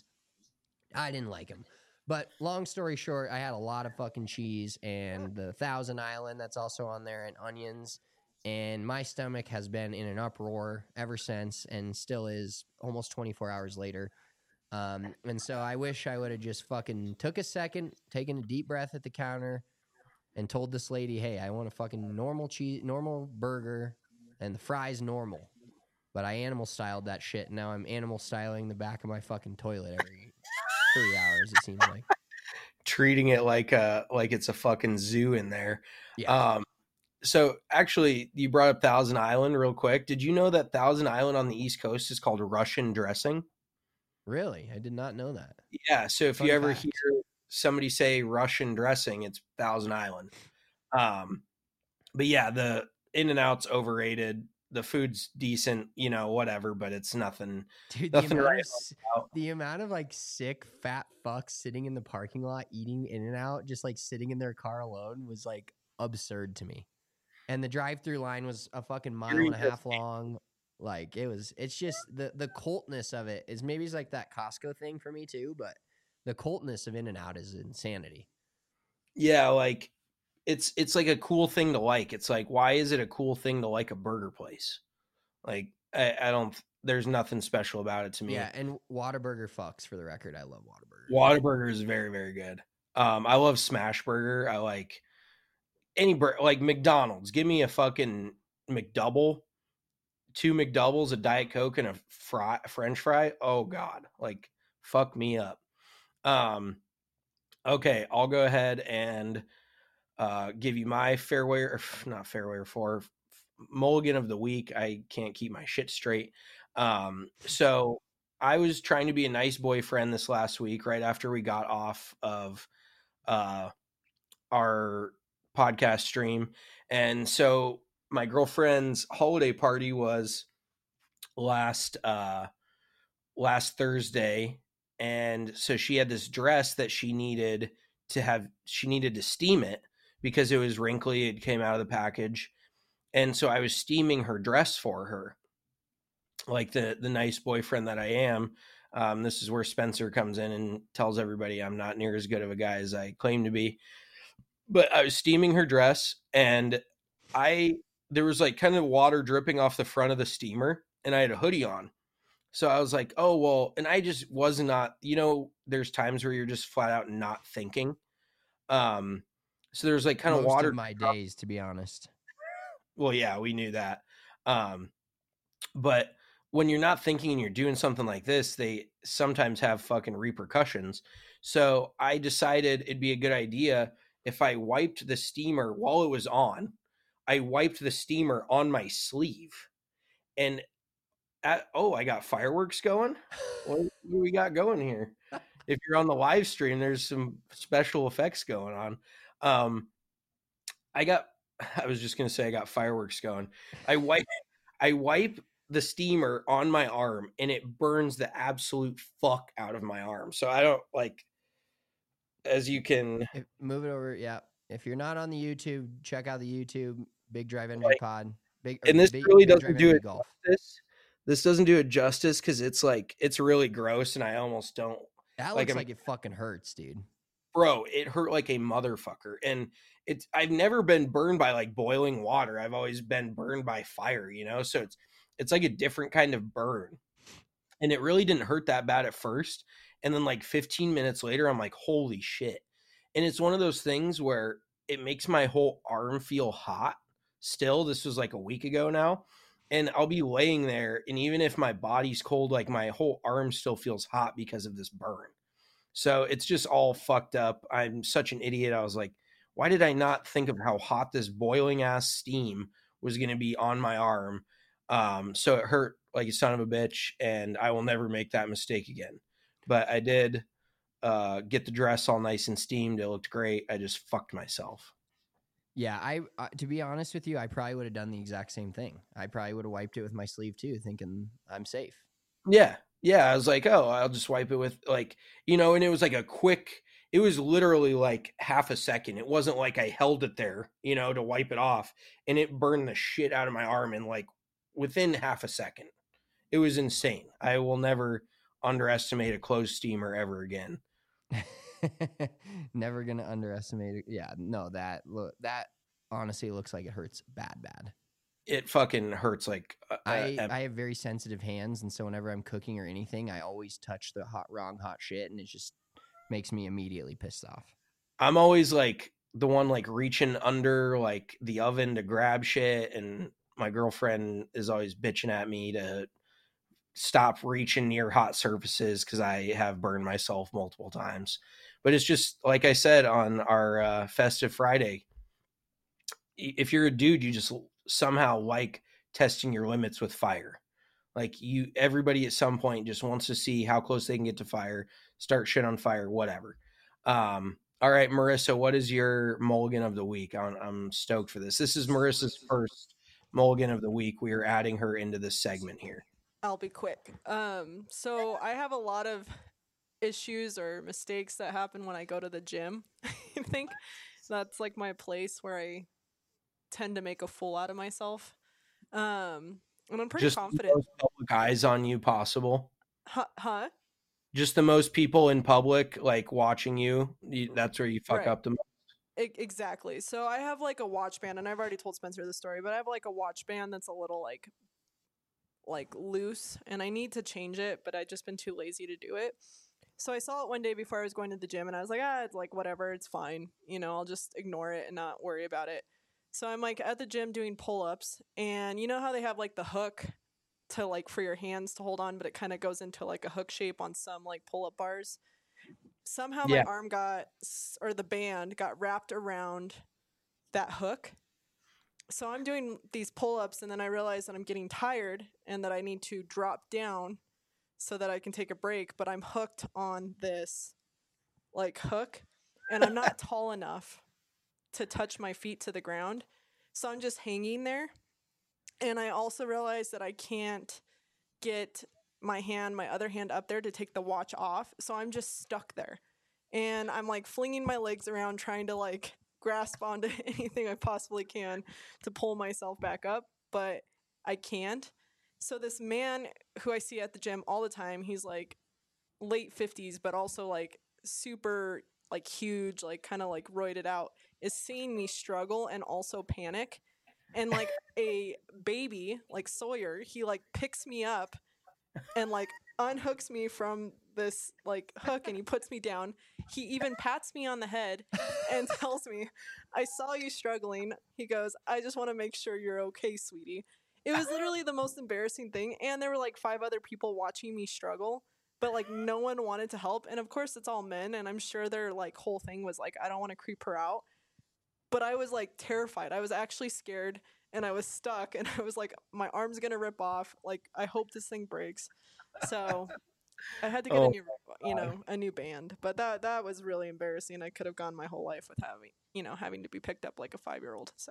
I didn't like them. But long story short, I had a lot of fucking cheese and the Thousand Island that's also on there and onions. And my stomach has been in an uproar ever since and still is almost twenty-four hours later. Um, and so I wish I would have just fucking took a second, taken a deep breath at the counter, and told this lady, hey, I want a fucking normal cheese, normal burger, and the fries normal. But I animal styled that shit, and now I'm animal styling the back of my fucking toilet every three hours, it seems like. Treating it like a like it's a fucking zoo in there. Yeah. Um, so actually, you brought up Thousand Island real quick. Did you know that Thousand Island on the East Coast is called Russian dressing? Really? I did not know that. Yeah. So if Fun you ever fact. hear somebody say Russian dressing, it's Thousand Island. Um, but yeah, the In-N-Out's overrated. The food's decent, you know, whatever, but it's nothing. Dude, the nothing amount, right of, s- the amount of like sick fat fucks sitting in the parking lot eating In-N-Out, just like sitting in their car alone, was like absurd to me. And the drive-through line was a fucking mile and a half long. Like it was, it's just the the cultness of it is maybe it's like that Costco thing for me too, but the cultness of In-N-Out is insanity. Yeah, like it's it's like a cool thing to like. It's like, why is it a cool thing to like a burger place? Like I, I don't. There's nothing special about it to me. Yeah, and Whataburger fucks, for the record. I love Whataburger. Whataburger is very very good. Um, I love Smash Burger. I like any burger, like McDonald's. Give me a fucking McDouble, two McDoubles, a Diet Coke, and a fry, French fry. Oh God, like fuck me up. Um, okay, I'll go ahead and uh, give you my fairway, or not fairway, or four mulligan of the week. I can't keep my shit straight. Um, so I was trying to be a nice boyfriend this last week, right after we got off of uh, our podcast stream. And so my girlfriend's holiday party was last, uh, last Thursday. And so she had this dress that she needed to have, she needed to steam it because it was wrinkly. It came out of the package. And so I was steaming her dress for her, like the, the nice boyfriend that I am. Um, this is where Spencer comes in and tells everybody I'm not near as good of a guy as I claim to be. But I was steaming her dress, and I there was like kind of water dripping off the front of the steamer, and I had a hoodie on. So I was like, oh, well, and I just was not, you know, there's times where you're just flat out not thinking. Um, so there's like kind of Most water. of my days, to be honest. Well, yeah, we knew that. Um, but when you're not thinking and you're doing something like this, they sometimes have fucking repercussions. So I decided it'd be a good idea if I wiped the steamer while it was on. I wiped the steamer on my sleeve. And at, oh, I got fireworks going. What, what do we got going here? If you're on the live stream, there's some special effects going on. Um, I got, I was just going to say I got fireworks going. I wipe, I wipe the steamer on my arm, and it burns the absolute fuck out of my arm. So I don't like, as you can If, move it over. Yeah. If you're not on the YouTube, check out the YouTube Big Drive Energy Like, Pod. Big, and or this Big- really Big doesn't Drive do Energy it Golf. justice. This doesn't do it justice because it's like it's really gross, and I almost don't. That like looks I'm- like it fucking hurts, dude. Bro, it hurt like a motherfucker. And it's I've never been burned by like boiling water. I've always been burned by fire, you know? So it's it's like a different kind of burn. And it really didn't hurt that bad at first. And then like fifteen minutes later, I'm like, holy shit. And it's one of those things where it makes my whole arm feel hot still. This was like a week ago now. And I'll be laying there, and even if my body's cold, like my whole arm still feels hot because of this burn. So it's just all fucked up. I'm such an idiot. I was like, why did I not think of how hot this boiling ass steam was going to be on my arm? Um, so it hurt like a son of a bitch, and I will never make that mistake again. But I did uh, get the dress all nice and steamed. It looked great. I just fucked myself. Yeah, I uh, to be honest with you, I probably would have done the exact same thing. I probably would have wiped it with my sleeve too, thinking I'm safe. Yeah. Yeah. I was like, oh, I'll just wipe it with like, you know, and it was like a quick, it it was literally like half a second. It wasn't like I held it there, you know, to wipe it off, and it burned the shit out of my arm in like within half a second. It was insane. I will never underestimate a clothes steamer ever again. Never gonna underestimate it. Yeah, no, that look that honestly looks like it hurts bad, bad. It fucking hurts like uh, I uh, I have very sensitive hands, and so whenever I'm cooking or anything, I always touch the hot wrong hot shit, and it just makes me immediately pissed off. I'm always like the one like reaching under like the oven to grab shit, and my girlfriend is always bitching at me to stop reaching near hot surfaces because I have burned myself multiple times. But it's just like I said on our uh, festive Friday, if you're a dude, you just somehow like testing your limits with fire. Like you, everybody at some point just wants to see how close they can get to fire, start shit on fire, whatever. Um, all right, Marissa, what is your mulligan of the week? I'm, I'm stoked for this. This is Marissa's first mulligan of the week. We are adding her into this segment here. I'll be quick. Um, so I have a lot of issues or mistakes that happen when I go to the gym. I think that's like my place where I tend to make a fool out of myself. Um, and I'm pretty Just confident. The most public eyes on you possible. Huh? huh? Just the most people in public like watching you. you that's where you fuck Right. up the most. I- exactly. So I have like a watch band, and I've already told Spencer this story, but I have like a watch band that's a little like like loose, and I need to change it, but I've just been too lazy to do it. So I saw it one day before I was going to the gym, and I was like, ah, it's like whatever, it's fine. You know, I'll just ignore it and not worry about it. So I'm like at the gym doing pull-ups, and you know how they have like the hook to like for your hands to hold on, but it kind of goes into like a hook shape on some like pull-up bars. Somehow Yeah. my arm got, or the band got wrapped around that hook. So I'm doing these pull-ups, and then I realize that I'm getting tired and that I need to drop down so that I can take a break, but I'm hooked on this like hook, and I'm not tall enough to touch my feet to the ground. So I'm just hanging there. And I also realized that I can't get my hand, my other hand up there to take the watch off. So I'm just stuck there. And I'm like flinging my legs around trying to like grasp onto anything I possibly can to pull myself back up, but I can't. So this man who I see at the gym all the time, he's like late fifties, but also like super like huge, like kind of like roided out, is seeing me struggle and also panic. And like a baby, like Sawyer, he like picks me up and like unhooks me from this like hook, and he puts me down. He even pats me on the head and tells me, I saw you struggling. He goes, I just want to make sure you're okay, sweetie. It was literally the most embarrassing thing. And there were like five other people watching me struggle, but like no one wanted to help. And of course it's all men, and I'm sure their like whole thing was like, I don't want to creep her out. But I was like terrified. I was actually scared, and I was stuck, and I was like, my arm's gonna rip off. Like, I hope this thing breaks. So I had to get Oh, a new, you know, a new band. But that that was really embarrassing. I could have gone my whole life with having, you know, having to be picked up like a five-year-old. So.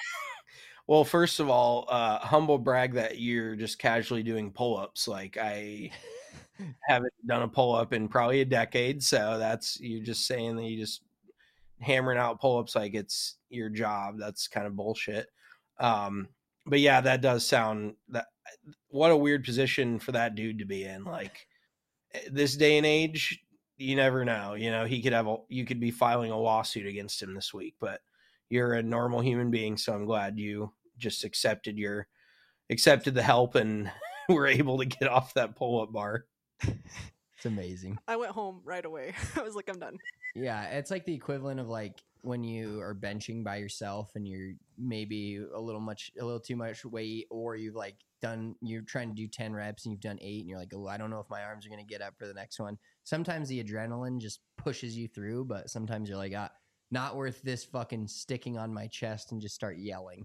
Well, first of all, uh, humble brag that you're just casually doing pull-ups. Like I haven't done a pull-up in probably a decade, so that's you're just saying that you just hammering out pull-ups like it's your job. That's kind of bullshit. Um, but yeah, that does sound that. What a weird position for that dude to be in. Like this day and age, you never know. You know, he could have a, you could be filing a lawsuit against him this week, but you're a normal human being, so I'm glad you just accepted your accepted the help and were able to get off that pull-up bar. It's amazing. I went home right away. I was like, I'm done. Yeah, it's like the equivalent of like when you are benching by yourself and you're maybe a little much, a little too much weight, or you've like done, you're trying to do ten reps and you've done eight, and you're like, oh, I don't know if my arms are going to get up for the next one. Sometimes the adrenaline just pushes you through, but sometimes you're like, ah, not worth this fucking sticking on my chest and just start yelling.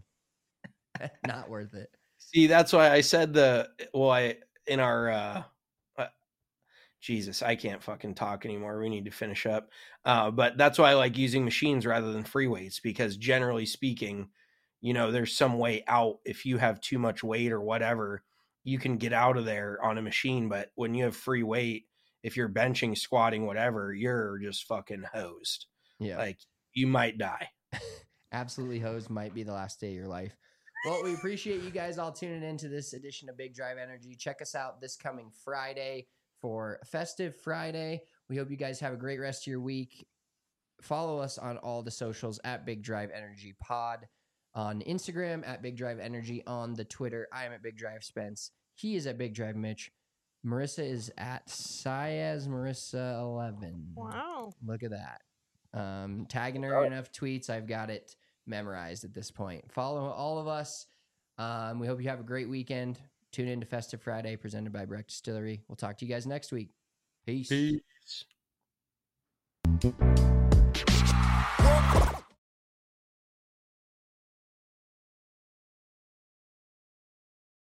Not worth it. See, that's why I said the, well, I, in our, uh, uh, Jesus, I can't fucking talk anymore. We need to finish up. Uh, but that's why I like using machines rather than free weights, because generally speaking, you know, there's some way out. If you have too much weight or whatever, you can get out of there on a machine. But when you have free weight, if you're benching, squatting, whatever, you're just fucking hosed. Yeah. Like you might die. Absolutely hosed might be the last day of your life. Well, we appreciate you guys all tuning into this edition of Big Drive Energy. Check us out this coming Friday for Festive Friday. We hope you guys have a great rest of your week. Follow us on all the socials at Big Drive Energy Pod, on Instagram at Big Drive Energy, on the Twitter. I am at Big Drive Spence. He is at Big Drive Mitch. Marissa is at Siaz Marissa eleven. Wow. Look at that. Um, tagging her in enough tweets, I've got it memorized at this point. Follow all of us. Um, we hope you have a great weekend. Tune in to Festive Friday presented by Breck Distillery. We'll talk to you guys next week. Peace. Peace.